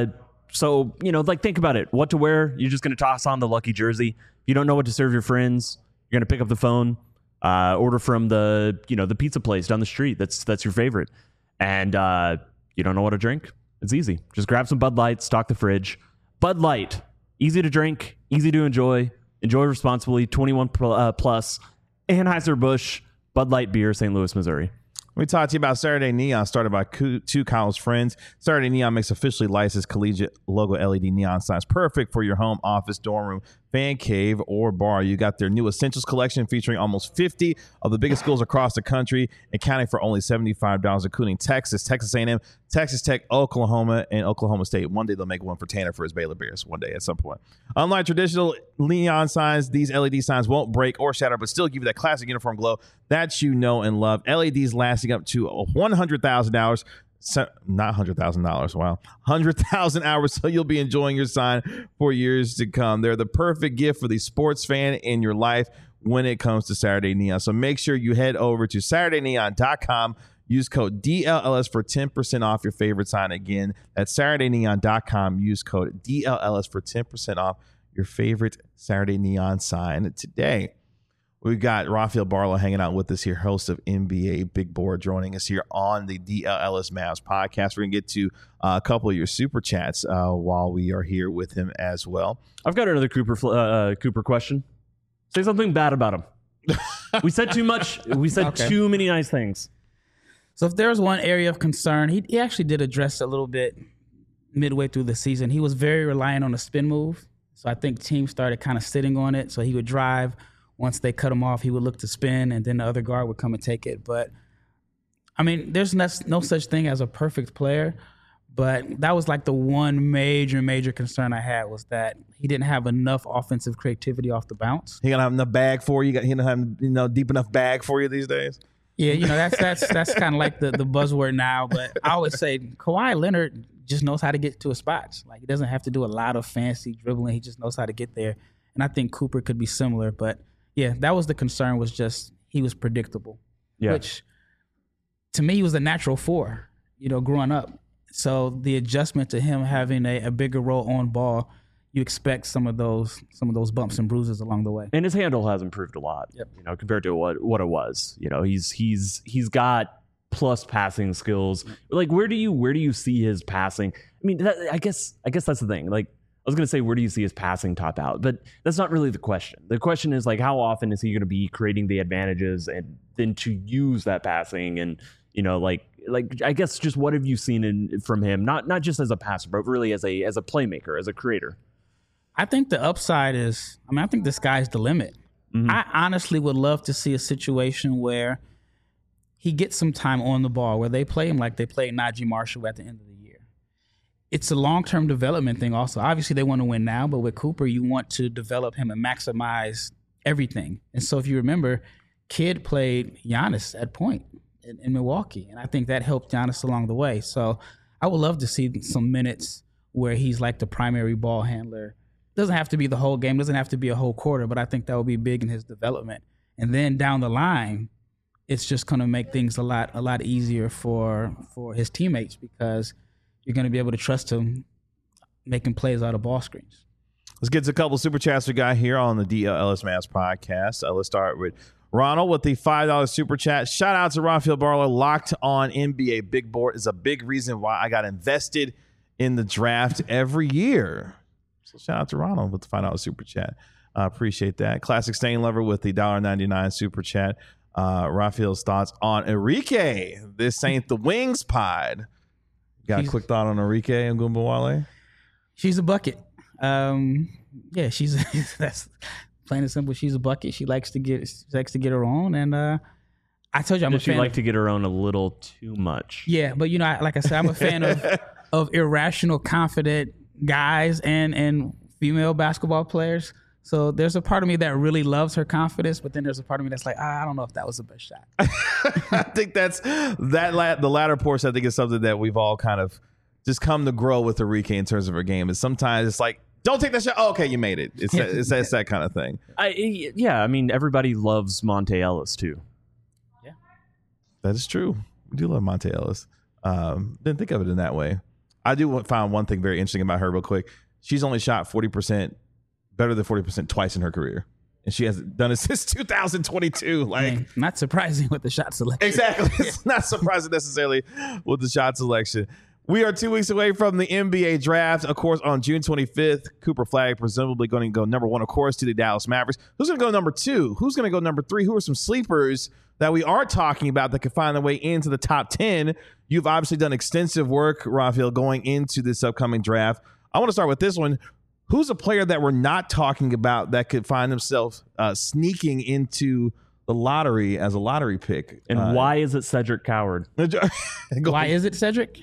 So, you know, like, think about it. What to wear? You're just going to toss on the lucky jersey. If you don't know what to serve your friends, you're going to pick up the phone, order from the pizza place down the street. That's your favorite. And you don't know what to drink? It's easy. Just grab some Bud Light, stock the fridge. Bud Light, easy to drink, easy to enjoy. Enjoy responsibly, 21 plus. Anheuser-Busch, Bud Light beer, St. Louis, Missouri. We talked to you about Saturday Neon, started by two college friends. Saturday Neon makes officially licensed collegiate logo LED neon signs, perfect for your home, office, dorm room, fan cave, or bar. You got their new Essentials collection featuring almost 50 of the biggest schools across the country, accounting for only $75, including Texas, Texas A&M, Texas Tech, Oklahoma, and Oklahoma State. One day they'll make one for Tanner for his Baylor Bears. One day at some point. Unlike traditional neon signs, these LED signs won't break or shatter, but still give you that classic uniform glow that you know and love. LEDs lasting up to $100,000. Not $100,000. Wow. 100,000 hours. So you'll be enjoying your sign for years to come. They're the perfect gift for the sports fan in your life when it comes to Saturday Neon. So make sure you head over to SaturdayNeon.com. Use code DLLS for 10% off your favorite sign. Again, that's SaturdayNeon.com. Use code DLLS for 10% off your favorite Saturday Neon sign today. We've got Rafael Barlow hanging out with us here, host of NBA Big Board, joining us here on the DLLS Mavs podcast. We're going to get to a couple of your super chats while we are here with him as well. I've got another Cooper question. Say something bad about him. We said too much. We said too many nice things. So if there's one area of concern, he actually did address a little bit midway through the season. He was very reliant on a spin move. So I think teams started kind of sitting on it. So he would drive. Once they cut him off, he would look to spin, and then the other guard would come and take it. But, I mean, there's no such thing as a perfect player, but that was like the one major concern I had, was that he didn't have enough offensive creativity off the bounce. He gonna have enough bag for you? He don't have deep enough bag for you these days? Yeah, that's kind of like the buzzword now. But I always say Kawhi Leonard just knows how to get to his spots. Like, he doesn't have to do a lot of fancy dribbling. He just knows how to get there. And I think Cooper could be similar, but yeah, that was the concern, was just he was predictable, which to me was the natural 4, growing up. So the adjustment to him having a bigger role on ball, you expect some of those bumps and bruises along the way. And his handle has improved a lot, compared to what it was. He's got plus passing skills. Like, where do you see his passing? I mean, I guess that's the thing. Like, I was going to say, where do you see his passing top out? But that's not really the question. The question is, like, how often is he going to be creating the advantages and then to use that passing? And, like I guess just what have you seen from him? Not just as a passer, but really as a playmaker, as a creator. I think the upside is, I think the sky's the limit. Mm-hmm. I honestly would love to see a situation where he gets some time on the ball, where they play him like they played Najee Marshall at the end of the year. it's a long-term development thing also. Obviously, they want to win now, but with Cooper, you want to develop him and maximize everything. And so if you remember, Kidd played Giannis at point in Milwaukee, and I think that helped Giannis along the way. So I would love to see some minutes where he's like the primary ball handler. Doesn't have to be the whole game, doesn't have to be a whole quarter, but I think that would be big in his development. And then down the line, it's just going to make things a lot easier for his teammates because you're going to be able to trust him making plays out of ball screens. Let's get to a couple of super chats we got here on the DLS Mass podcast. Let's start with Ronald with the $5 super chat. Shout out to Rafael Barlow. Locked on NBA Big Board is a big reason why I got invested in the draft every year. So shout out to Ronald with the $5 super chat. Appreciate that. Classic Stain Lover with the $1.99 super chat. Rafael's thoughts on Enrique. This ain't the Wings pod. Got a quick thought on Enrique and Gumbawale? She's a bucket. Yeah, she's that's plain and simple. She's a bucket. She likes to get her own, and I told you I'm a fan. She like to get her own a little too much. Yeah, but like I said, I'm a fan of irrational, confident guys and female basketball players. So there's a part of me that really loves her confidence, but then there's a part of me that's like, I don't know if that was the best shot. I think the latter portion, I think, is something that we've all kind of just come to grow with Enrique in terms of her game. And sometimes it's like, don't take that shot. Oh, okay, you made it. It's that kind of thing. I mean, everybody loves Monte Ellis too. Yeah, that is true. We do love Monte Ellis. Didn't think of it in that way. I do find one thing very interesting about her real quick. She's only shot 40%, better than 40% twice in her career. And she hasn't done it since 2022. Like, not surprising with the shot selection. Exactly. It's not surprising necessarily with the shot selection. We are 2 weeks away from the NBA draft. Of course, on June 25th, Cooper Flagg presumably going to go number 1, of course, to the Dallas Mavericks. Who's going to go number 2? Who's going to go number 3? Who are some sleepers that we aren't talking about that could find their way into the top 10? You've obviously done extensive work, Rafael, going into this upcoming draft. I want to start with this one. Who's a player that we're not talking about that could find themselves sneaking into the lottery as a lottery pick? And why is it Cedric Coward? Why is it Cedric?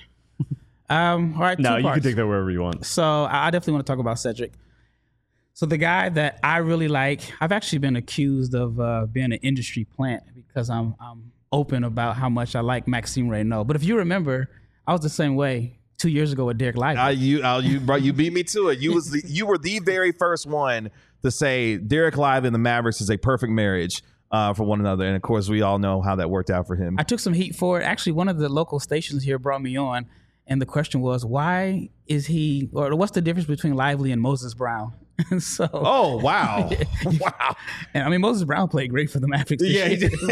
All right, no, you parts. can take that wherever you want. So I definitely want to talk about Cedric. So the guy that I really like, I've actually been accused of being an industry plant because I'm open about how much I like Maxime Reynaud. But if you remember, I was the same way 2 years ago with Derek Lively. You beat me to it. You were the very first one to say Derek Lively and the Mavericks is a perfect marriage for one another. And of course, we all know how that worked out for him. I took some heat for it. Actually, one of the local stations here brought me on. And the question was, why is he, or what's the difference between Lively and Moses Brown? And so, oh, wow. Wow. And I mean, Moses Brown played great for the Mavericks. Yeah, he did.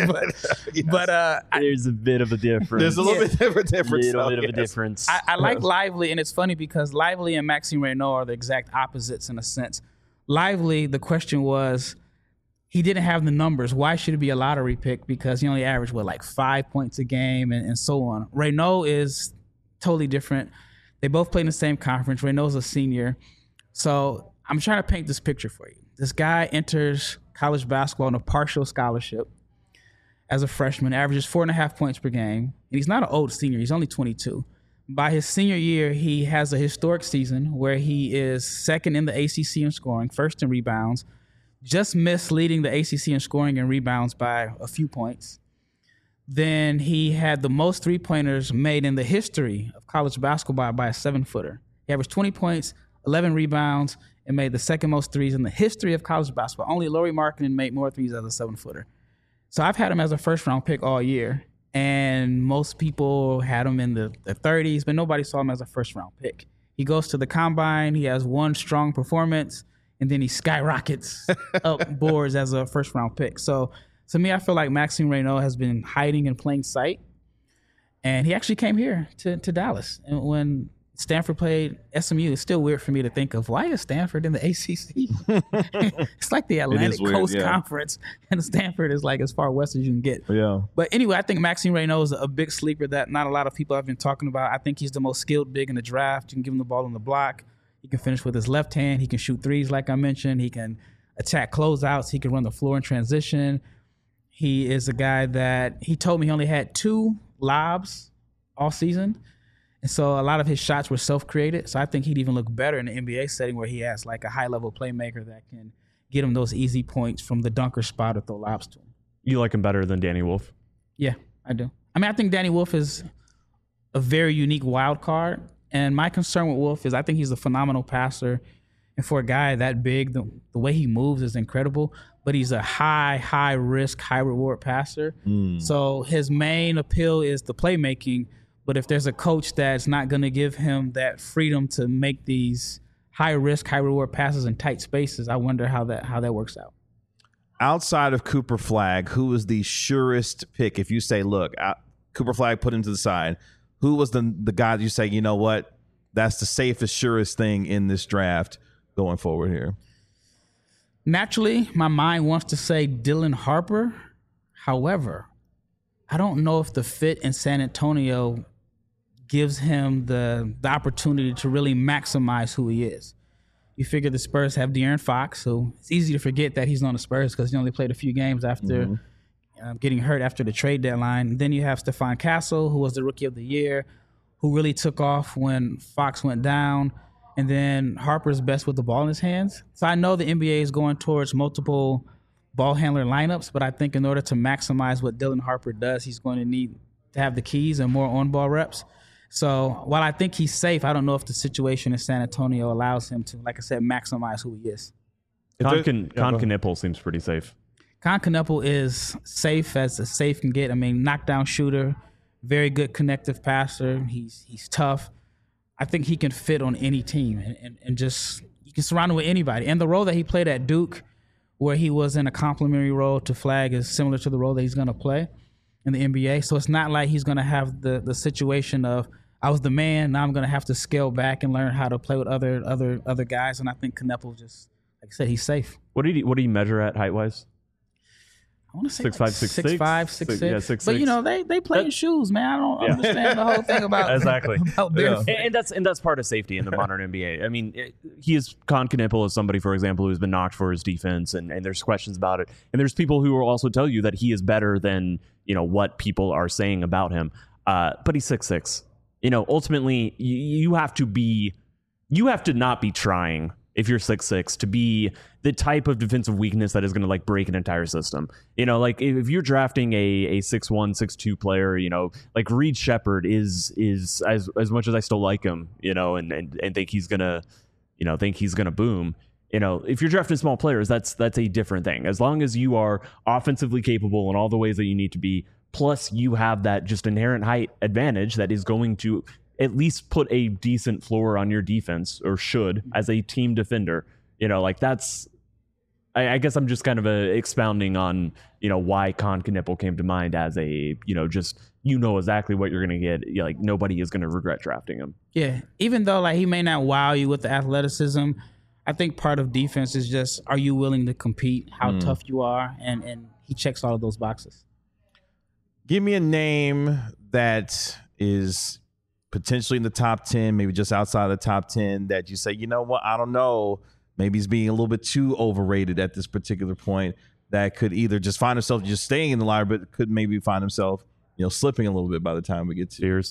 But there's a bit of a difference. There's a little bit of a difference. I like Lively, and it's funny because Lively and Maxime Reynaud are the exact opposites in a sense. Lively, the question was, he didn't have the numbers. Why should it be a lottery pick? Because he only averaged, like 5 points a game and so on. Reynaud is totally different. They both play in the same conference. Reynaud's a senior. So I'm trying to paint this picture for you. This guy enters college basketball on a partial scholarship as a freshman, averages 4.5 points per game. And he's not an old senior. He's only 22. By his senior year, he has a historic season where he is second in the ACC in scoring, first in rebounds, just missed leading the ACC in scoring and rebounds by a few points. Then he had the most three-pointers made in the history of college basketball by a 7-footer. He averaged 20 points, 11 rebounds, and made the second most threes in the history of college basketball. Only Lauri Markkanen made more threes as a 7-footer. So I've had him as a first-round pick all year, and most people had him in the 30s, but nobody saw him as a first-round pick. He goes to the combine. He has one strong performance, and then he skyrockets up boards as a first-round pick. So to me, I feel like Maxime Reynaud has been hiding in plain sight, and he actually came here to Dallas. And when Stanford played SMU, it's still weird for me to think of, why is Stanford in the ACC? It's like the Atlantic Coast Conference, and Stanford is like as far west as you can get. Yeah. But anyway, I think Maxime Reynaud is a big sleeper that not a lot of people have been talking about. I think he's the most skilled big in the draft. You can give him the ball on the block. He can finish with his left hand. He can shoot threes, like I mentioned. He can attack closeouts. He can run the floor in transition. He is a guy that he told me he only had 2 lobs all season. And so a lot of his shots were self-created. So I think he'd even look better in the NBA setting where he has like a high-level playmaker that can get him those easy points from the dunker spot or throw lobs to him. You like him better than Danny Wolf? Yeah, I do. I mean, I think Danny Wolf is a very unique wild card. And my concern with Wolf is I think he's a phenomenal passer. And for a guy that big, the way he moves is incredible. But he's a high risk, high reward passer. So his main appeal is the playmaking. But if there's a coach that's not going to give him that freedom to make these high risk, high reward passes in tight spaces, I wonder how that works out. Outside of Cooper Flagg, who was the surest pick? If you say, look, Cooper Flagg put him to the side, who was the guy that you say, you know what, that's the safest, surest thing in this draft going forward here? Naturally, my mind wants to say Dylan Harper. However, I don't know if the fit in San Antonio gives him the opportunity to really maximize who he is. You figure the Spurs have De'Aaron Fox, so it's easy to forget that he's on the Spurs because he only played a few games after getting hurt after the trade deadline. Then you have Stephon Castle, who was the Rookie of the Year, who really took off when Fox went down. And then Harper's best with the ball in his hands. So I know the NBA is going towards multiple ball handler lineups, but I think in order to maximize what Dylan Harper does, he's going to need to have the keys and more on-ball reps. So while I think he's safe, I don't know if the situation in San Antonio allows him to, like I said, maximize who he is. Con Knueppel seems pretty safe. Con Knueppel is safe as a safe can get. I mean, knockdown shooter, very good connective passer. He's tough. I think he can fit on any team and just you can surround him with anybody. And the role that he played at Duke, where he was in a complementary role to Flagg, is similar to the role that he's going to play in the NBA. So it's not like he's going to have the situation of I was the man, now I'm going to have to scale back and learn how to play with other guys. And I think Knueppel just, like I said, he's safe. What did he measure at height-wise? I want to say 6'5", 6'6"? 6'5", 6'6". Yeah, 6'6". But, you know, they play in shoes, man. I don't understand the whole thing about exactly. About their and that's part of safety in the modern NBA. I mean, Con Knueppel is somebody, for example, who's been knocked for his defense, and there's questions about it. And there's people who will also tell you that he is better than, you know, what people are saying about him. But he's 6'6". You know, ultimately, you have to not be trying if you're 6'6" to be the type of defensive weakness that is going to like break an entire system. You know, like if you're drafting a 6'1", 6'2" player, you know, like Reed Shepherd is as much as I still like him, you know, and think he's gonna boom. You know, if you're drafting small players, that's a different thing. As long as you are offensively capable in all the ways that you need to be, plus you have that just inherent height advantage that is going to at least put a decent floor on your defense, or should, as a team defender. You know, like that's, I guess I'm just kind of expounding on, you know, why Con Knueppel came to mind as a, you know, just, you know exactly what you're going to get. Like nobody is going to regret drafting him. Yeah. Even though like he may not wow you with the athleticism, I think part of defense is just, are you willing to compete, how tough you are? And he checks all of those boxes. Give me a name that is potentially in the top 10, maybe just outside the top 10, that you say, you know what, I don't know, maybe he's being a little bit too overrated at this particular point, that could either just find himself just staying in the lottery, but could maybe find himself, you know, slipping a little bit by the time we get to Fears.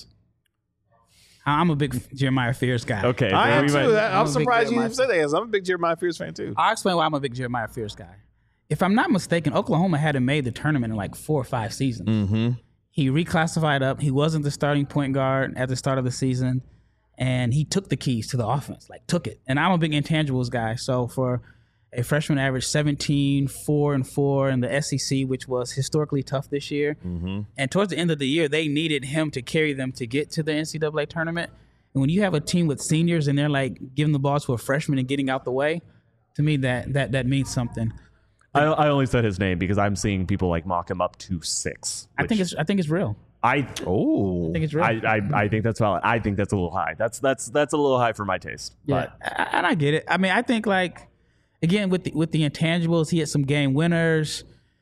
I'm a big Jeremiah Fears guy. Okay. I am too. I'm surprised you Jeremiah said that. I'm a big Jeremiah Fears fan too. I'll explain why I'm a big Jeremiah Fears guy. If I'm not mistaken, Oklahoma hadn't made the tournament in like 4 or 5 seasons. Mm-hmm. He reclassified up. He wasn't the starting point guard at the start of the season, and he took the keys to the offense, like took it. And I'm a big intangibles guy. So for a freshman average 17, 4-4 in the SEC, which was historically tough this year. Mm-hmm. And towards the end of the year, they needed him to carry them to get to the NCAA tournament. And when you have a team with seniors and they're like giving the ball to a freshman and getting out the way, to me that means something. I only said his name because I'm seeing people like mock him up to 6. I think it's real. I think it's real. I think that's valid. I think that's a little high. That's a little high for my taste. Yeah, and I get it. I mean, I think like again with the intangibles, he had some game winners.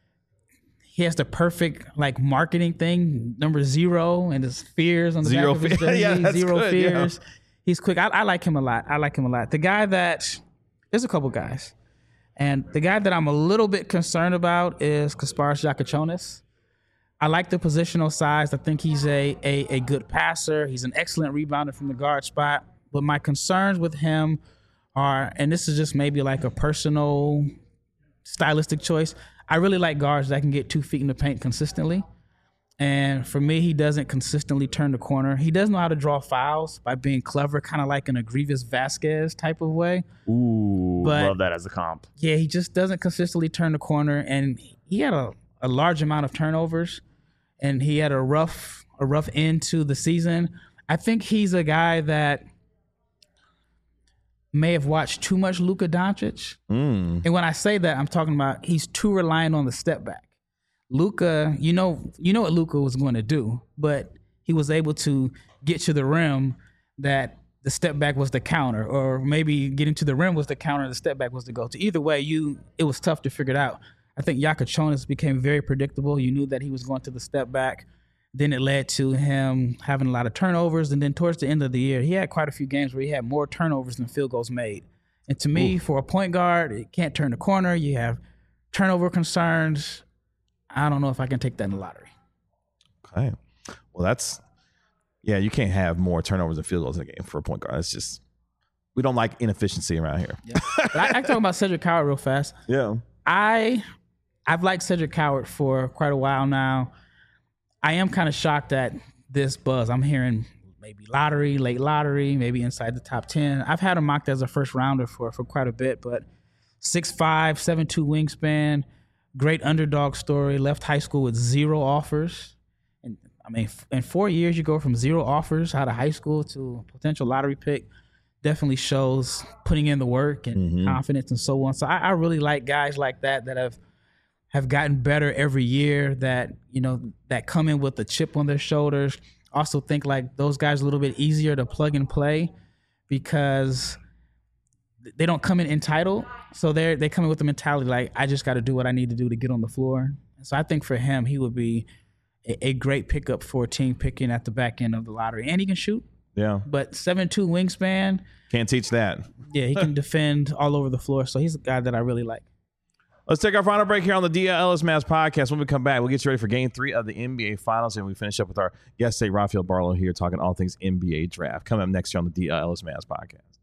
He has the perfect like marketing thing, number 0, and his fears on the back of his jersey. Yeah, 0 good, fears. Yeah. He's quick. I like him a lot. The guy that there's a couple guys. And the guy that I'm a little bit concerned about is Kasparas Giacochonis. I like the positional size. I think he's a good passer. He's an excellent rebounder from the guard spot. But my concerns with him are, and this is just maybe like a personal stylistic choice, I really like guards that can get 2 feet in the paint consistently. And for me, he doesn't consistently turn the corner. He does know how to draw fouls by being clever, kind of like in a Grievous Vasquez type of way. Ooh, But- love that as a comp. Yeah, he just doesn't consistently turn the corner. And he had a large amount of turnovers, and he had a rough end to the season. I think he's a guy that may have watched too much Luka Doncic. And when I say that, I'm talking about he's too reliant on the step back. Luka, you know what Luka was going to do, but he was able to get to the rim that the step back was the counter, or maybe getting to the rim was the counter, the step back was the go-to. Either way, it was tough to figure it out. I think Yakachonis became very predictable. You knew that he was going to the step back. Then it led to him having a lot of turnovers. And then towards the end of the year, he had quite a few games where he had more turnovers than field goals made. And to me, for a point guard, it can't turn the corner. You have turnover concerns. I don't know if I can take that in the lottery. Okay. Well, you can't have more turnovers than field goals in a game for a point guard. It's just, we don't like inefficiency around here. Yeah. But I can talk about Cedric Howard real fast. Yeah. I've liked Cedric Howard for quite a while now. I am kind of shocked at this buzz. I'm hearing maybe lottery, late lottery, maybe inside the top 10. I've had him mocked as a first rounder for quite a bit, but 6'5", 7'2" wingspan, great underdog story, left high school with 0 offers. And I mean, in 4 years, you go from 0 offers out of high school to a potential lottery pick. Definitely shows putting in the work and confidence and so on. So I really like guys like that have gotten better every year, that come in with a chip on their shoulders. Also think like those guys are a little bit easier to plug and play because they don't come in entitled. So they come in with the mentality like, I just got to do what I need to do to get on the floor. So I think for him, he would be a great pickup for a team picking at the back end of the lottery. And he can shoot. Yeah. But 7'2" wingspan. Can't teach that. Yeah, he can defend all over the floor. So he's a guy that I really like. Let's take our final break here on the DL Ellis Mavs podcast. When we come back, we'll get you ready for Game 3 of the NBA Finals, and we finish up with our guest today, Rafael Barlow, here talking all things NBA draft. Coming up next year on the DL Ellis Mavs podcast.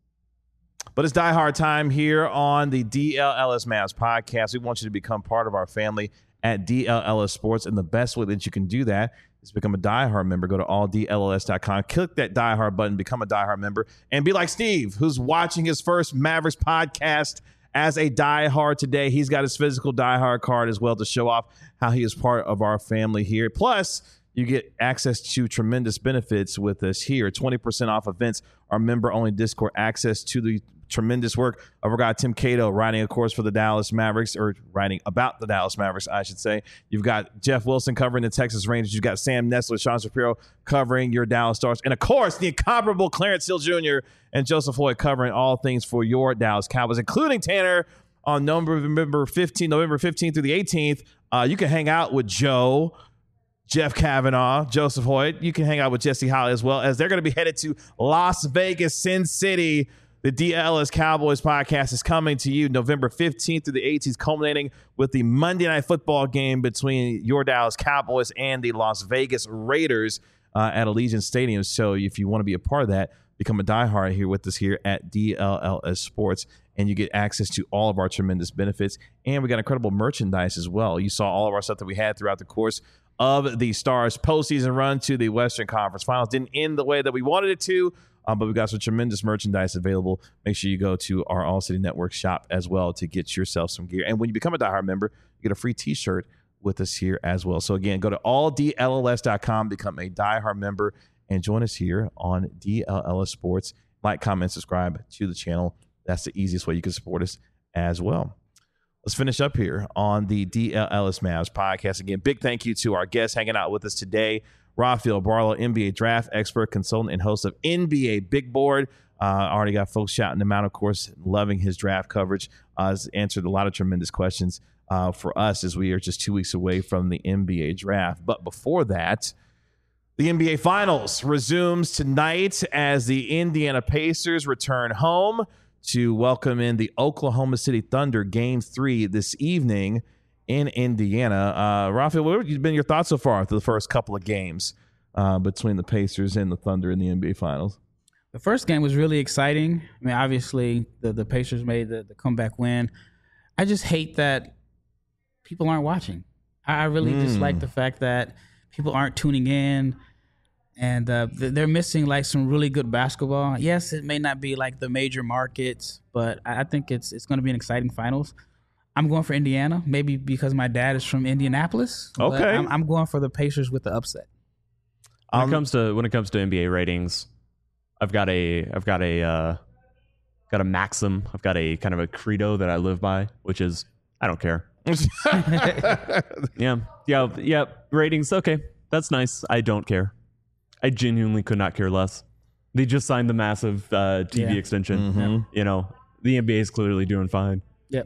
But it's Die Hard time here on the DL Ellis Mavs podcast. We want you to become part of our family at DL Ellis Sports, and the best way that you can do that is become a Die Hard member. Go to alldls.com, click that Die Hard button, become a Die Hard member, and be like Steve, who's watching his first Mavericks podcast as a Die Hard today. He's got his physical Die Hard card as well to show off how he is part of our family here. Plus, you get access to tremendous benefits with us here. 20% off events, our member-only Discord, access to the tremendous work of our guy Tim Cato, writing, of course, for the Dallas Mavericks, or writing about the Dallas Mavericks, I should say. You've got Jeff Wilson covering the Texas Rangers. You've got Sam Nessler, Sean Shapiro covering your Dallas Stars. And, of course, the incomparable Clarence Hill Jr. and Joseph Hoyt covering all things for your Dallas Cowboys, including Tanner on November 15th through the 18th. You can hang out with Joe, Jeff Kavanaugh, Joseph Hoyt. You can hang out with Jesse Holly as well, as they're going to be headed to Las Vegas, Sin City. The DLS Cowboys podcast is coming to you November 15th through the 18th, culminating with the Monday Night Football game between your Dallas Cowboys and the Las Vegas Raiders at Allegiant Stadium. So if you want to be a part of that, become a diehard here with us here at DLS Sports, and you get access to all of our tremendous benefits. And we got incredible merchandise as well. You saw all of our stuff that we had throughout the course of the Stars' postseason run to the Western Conference Finals. Didn't end the way that we wanted it to, but we got some tremendous merchandise available. Make sure you go to our All City Network shop as well to get yourself some gear. And when you become a diehard member, you get a free t-shirt with us here as well. So again, go to alldlls.com, become a diehard member, and join us here on DLLS Sports. Like, comment, subscribe to the channel. That's the easiest way you can support us as well. Let's finish up here on the DLLS Mavs podcast. Again, big thank you to our guests hanging out with us today. Rafael Barlow, NBA draft expert, consultant, and host of NBA Big Board. Already got folks shouting him out, of course, loving his draft coverage. Has answered a lot of tremendous questions for us as we are just 2 weeks away from the NBA draft. But before that, the NBA Finals resumes tonight as the Indiana Pacers return home to welcome in the Oklahoma City Thunder Game 3 this evening. in Indiana. Rafael, what have been your thoughts so far through the first couple of games between the Pacers and the Thunder in the NBA Finals? The first game was really exciting. I mean, obviously, the Pacers made the comeback win. I just hate that people aren't watching. I really dislike the fact that people aren't tuning in, and they're missing like some really good basketball. Yes, it may not be like the major markets, but I think it's going to be an exciting finals. I'm going for Indiana, maybe because my dad is from Indianapolis. Okay, I'm going for the Pacers with the upset. When it comes to NBA ratings, I've got a maxim. I've got a kind of a credo that I live by, which is I don't care. Yeah. Ratings, okay, that's nice. I don't care. I genuinely could not care less. They just signed the massive TV extension. Mm-hmm. You know, the NBA is clearly doing fine. Yep.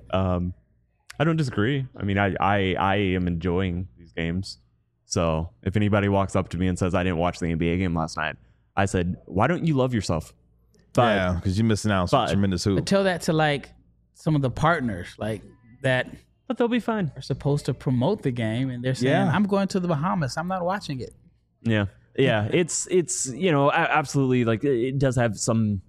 I don't disagree. I mean, I am enjoying these games. So if anybody walks up to me and says I didn't watch the NBA game last night, I said, why don't you love yourself? But, yeah, because you're missing out on some tremendous hoop. But tell that to like some of the partners like that. But they'll be fine. Are supposed to promote the game, and they're saying, I'm going to the Bahamas. I'm not watching it. Yeah. It's you know, absolutely, like it does have some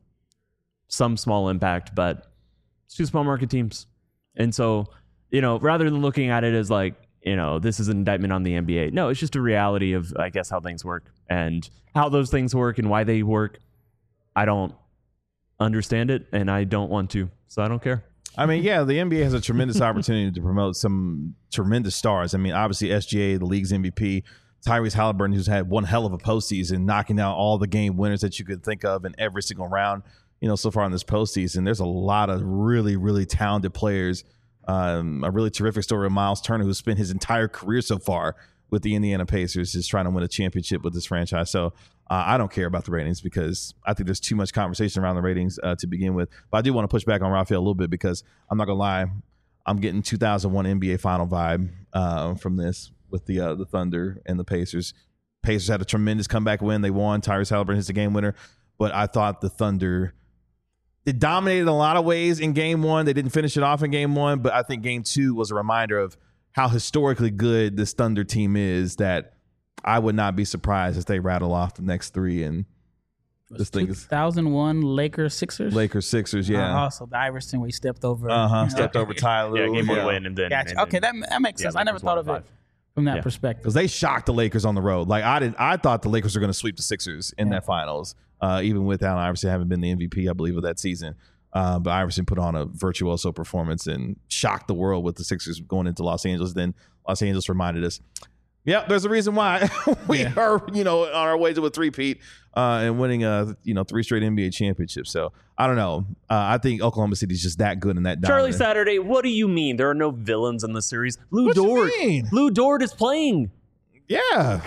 small impact, but it's two small market teams. And so, you know, rather than looking at it as like, you know, this is an indictment on the NBA. No, it's just a reality of, I guess, how things work and how those things work and why they work. I don't understand it, and I don't want to, so I don't care. I mean, yeah, the NBA has a tremendous opportunity to promote some tremendous stars. I mean, obviously, SGA, the league's MVP, Tyrese Halliburton, who's had one hell of a postseason, knocking down all the game winners that you could think of in every single round, you know, so far in this postseason. There's a lot of really, really talented players. A really terrific story of Miles Turner, who spent his entire career so far with the Indiana Pacers, is trying to win a championship with this franchise. So I don't care about the ratings because I think there's too much conversation around the ratings to begin with. But I do want to push back on Rafael a little bit because I'm not going to lie, I'm getting 2001 NBA final vibe from this with the Thunder and the Pacers. Pacers had a tremendous comeback win. They won. Tyrese Halliburton hits the game winner. But I thought the Thunder, they dominated in a lot of ways in game one. They didn't finish it off in game one, but I think game two was a reminder of how historically good this Thunder team is, that I would not be surprised if they rattle off the next three. And this thing is 2001 Lakers Sixers. Yeah. Also, the Iverson where he stepped over. Stepped over Ty Lue. Yeah, game one win and then. Gotcha. And Okay, that makes sense. I never thought of it from that perspective. Because they shocked the Lakers on the road. Like I thought the Lakers were going to sweep the Sixers in that finals, even with Allen Iverson having been the MVP, I believe, of that season. But Iverson put on a virtuoso performance and shocked the world with the Sixers going into Los Angeles. Then Los Angeles reminded us, there's a reason why we are, on our way to a three-peat and winning three straight NBA championships. So I don't know. I think Oklahoma City is just that good in that. Charlie Saturday, what do you mean? There are no villains in the series. Lou Dort is playing. Yeah.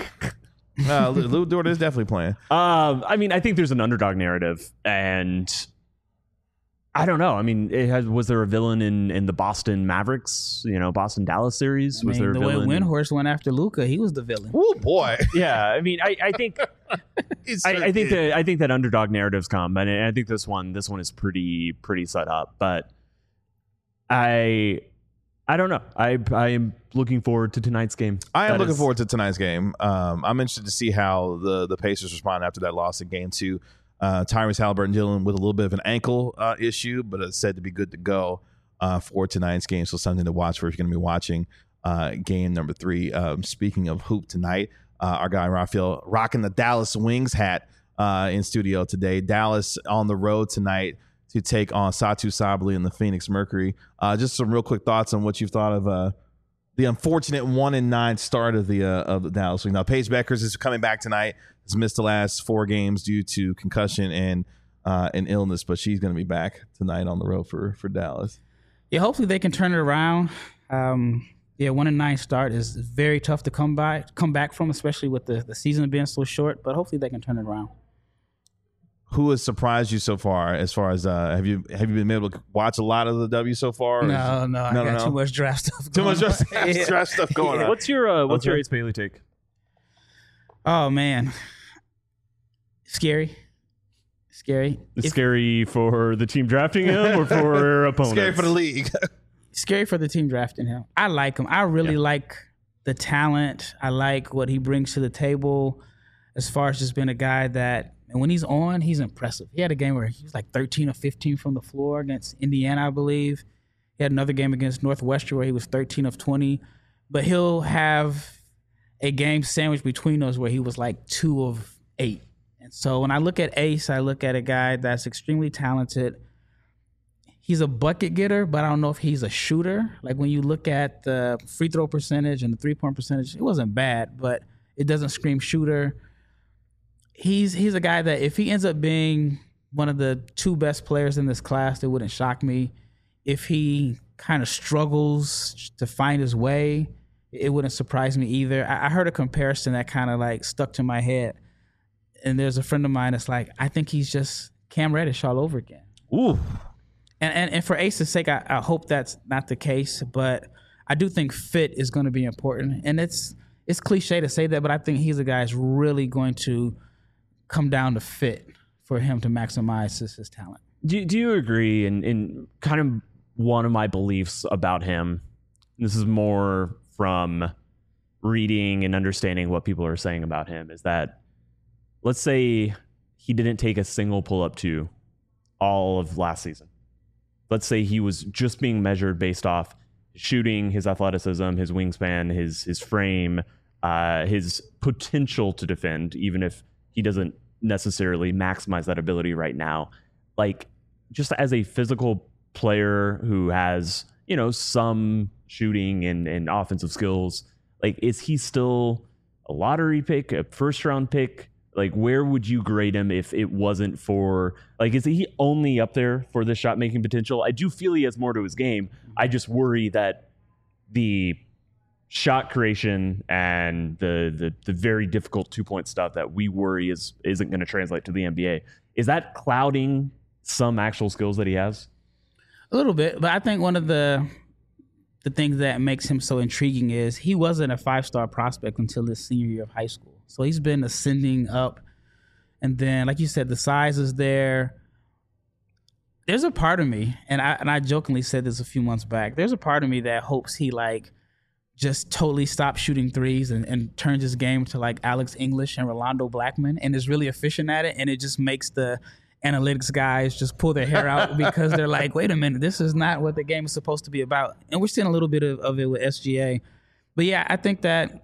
Lou Dort is definitely playing. I mean, I think there's an underdog narrative, and I don't know. I mean, was there a villain in the Boston Mavericks, Boston Dallas series? Was there a villain? When Windhorst went after Luka, he was the villain. Oh boy. Yeah, I mean, I think I think that underdog narratives come, and I think this one is pretty set up. But I don't know. I am looking forward to tonight's game. I am looking forward to tonight's game. I'm interested to see how the Pacers respond after that loss in game two. Tyrese Halliburton dealing with a little bit of an ankle issue, but it's said to be good to go for tonight's game. So something to watch for if you're going to be watching game number 3. Speaking of hoop tonight, our guy Rafael rocking the Dallas Wings hat in studio today. Dallas on the road tonight to take on Satu Sabally and the Phoenix Mercury. Just some real quick thoughts on what you've thought of the unfortunate 1-9 start of the Dallas Wings. Now, Paige Beckers is coming back tonight. Has missed the last 4 games due to concussion and an illness, but she's going to be back tonight on the road for Dallas. Yeah, hopefully they can turn it around. 1-9 start is very tough to come back from, especially with the season being so short. But hopefully they can turn it around. Who has surprised you so far? As far as have you been able to watch a lot of the W so far? No. I got too much draft stuff. Draft stuff going on. What's your Ace Bailey take? Oh man, scary. It's scary for the team drafting him or for opponents? Scary for the league. scary for the team drafting him. I like him. I really like the talent. I like what he brings to the table as far as just being a guy that, and when he's on, he's impressive. He had a game where he was like 13 or 15 from the floor against Indiana, I believe. He had another game against Northwestern where he was 13 of 20. But he'll have a game sandwich between those where he was like 2 of 8. And so when I look at Ace, I look at a guy that's extremely talented. He's a bucket getter, but I don't know if he's a shooter. Like when you look at the free throw percentage and the 3-point percentage, it wasn't bad, but it doesn't scream shooter. He's a guy that if he ends up being one of the 2 best players in this class, it wouldn't shock me. If he kind of struggles to find his way, it wouldn't surprise me either. I heard a comparison that kind of like stuck to my head. And there's a friend of mine that's like, I think he's just Cam Reddish all over again. Ooh. And for Ace's sake, I hope that's not the case, but I do think fit is going to be important. And it's cliche to say that, but I think he's a guy that's really going to come down to fit for him to maximize his talent. Do you agree? In kind of one of my beliefs about him, this is more from reading and understanding what people are saying about him, is that let's say he didn't take a single pull-up 2 all of last season. Let's say he was just being measured based off shooting, his athleticism, his wingspan, his frame, his potential to defend, even if he doesn't necessarily maximize that ability right now. Like, just as a physical player who has, some shooting and offensive skills, like, is he still a lottery pick, a first-round pick? Like, where would you grade him if it wasn't for, like, is he only up there for the shot making potential? I do feel he has more to his game. I just worry that the shot creation and the very difficult 2-point stuff that we worry isn't going to translate to the NBA. Is that clouding some actual skills that he has? A little bit, but I think one of the things that makes him so intriguing is he wasn't a 5-star prospect until his senior year of high school. So he's been ascending up. And then, like you said, the size is there. There's a part of me, and I jokingly said this a few months back, there's a part of me that hopes he, like, just totally stops shooting threes and turns his game to, like, Alex English and Rolando Blackman and is really efficient at it, and it just makes the analytics guys just pull their hair out because they're like, wait a minute, this is not what the game is supposed to be about. And we're seeing a little bit of it with SGA. But, yeah, I think that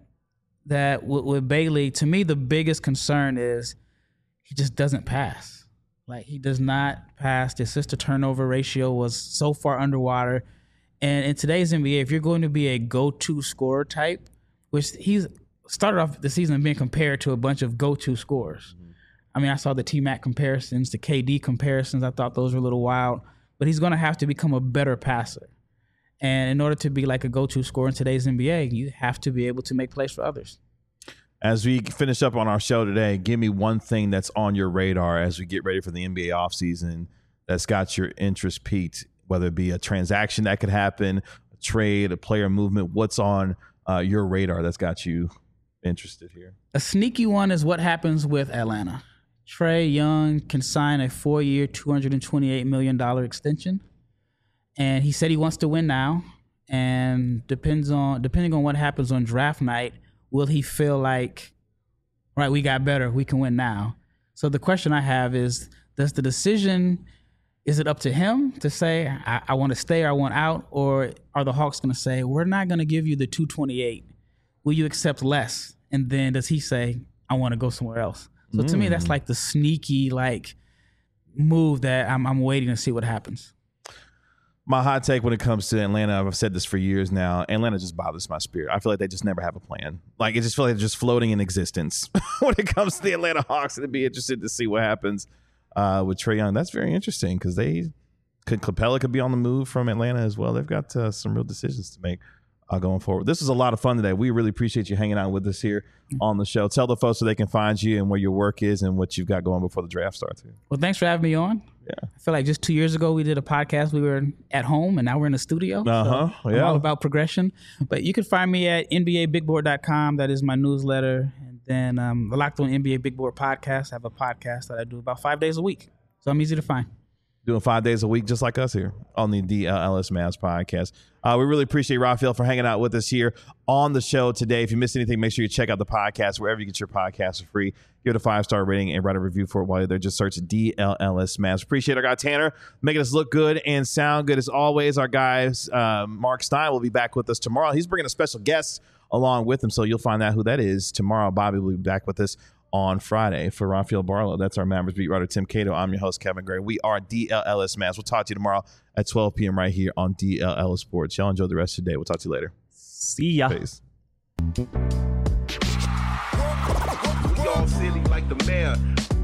with Bailey, to me, the biggest concern is he just doesn't pass. Like, he does not pass. The assist-to-turnover ratio was so far underwater. And in today's NBA, if you're going to be a go-to scorer type, which he's started off the season being compared to a bunch of go-to scorers. Mm-hmm. I mean, I saw the T-Mac comparisons, the KD comparisons. I thought those were a little wild. But he's going to have to become a better passer. And in order to be like a go-to scorer in today's NBA, you have to be able to make plays for others. As we finish up on our show today, give me one thing that's on your radar as we get ready for the NBA offseason that's got your interest piqued, whether it be a transaction that could happen, a trade, a player movement. What's on your radar that's got you interested here? A sneaky one is what happens with Atlanta. Trae Young can sign a 4-year, $228 million extension. And he said he wants to win now. And depending on what happens on draft night, will he feel like, right, we got better, we can win now? So the question I have is, is it up to him to say, I want to stay or I want out? Or are the Hawks going to say, we're not going to give you the 228. Will you accept less? And then does he say, I want to go somewhere else? So to me, that's like the sneaky move that I'm waiting to see what happens. My hot take when it comes to Atlanta, I've said this for years now, Atlanta just bothers my spirit. I feel like they just never have a plan. Like, it just feels like they're just floating in existence when it comes to the Atlanta Hawks. It'd be interested to see what happens with Trae Young. That's very interesting because Capella could be on the move from Atlanta as well. They've got some real decisions to make going forward. This was a lot of fun today. We really appreciate you hanging out with us here on the show. Tell the folks so they can find you and where your work is and what you've got going before the draft starts here. Well, thanks for having me on. Yeah. I feel like just 2 years ago we did a podcast. We were at home and now we're in the studio. So I'm all about progression. But you can find me at NBABigBoard.com. That is my newsletter. And then the Locked On NBA Big Board podcast. I have a podcast that I do about 5 days a week. So I'm easy to find. doing 5 days a week, just like us here on the DLLS Mavs podcast. We really appreciate Rafael for hanging out with us here on the show today. If you missed anything, make sure you check out the podcast wherever you get your podcasts for free. Give it a 5-star rating and write a review for it while you're there. Just search DLLS Mavs. Appreciate our guy Tanner making us look good and sound good as always. Our guys, Mark Stein will be back with us tomorrow. He's bringing a special guest along with him, so you'll find out who that is tomorrow. Bobby will be back with us on Friday. For Rafael Barlow, that's our Mavericks beat writer Tim Cato. I'm your host Kevin Gray. We are DLLS Mavs. We'll talk to you tomorrow at 12 p.m. right here on DLLS Sports. Y'all enjoy the rest of your day. We'll talk to you later. See ya. Peace. We all silly like the mayor.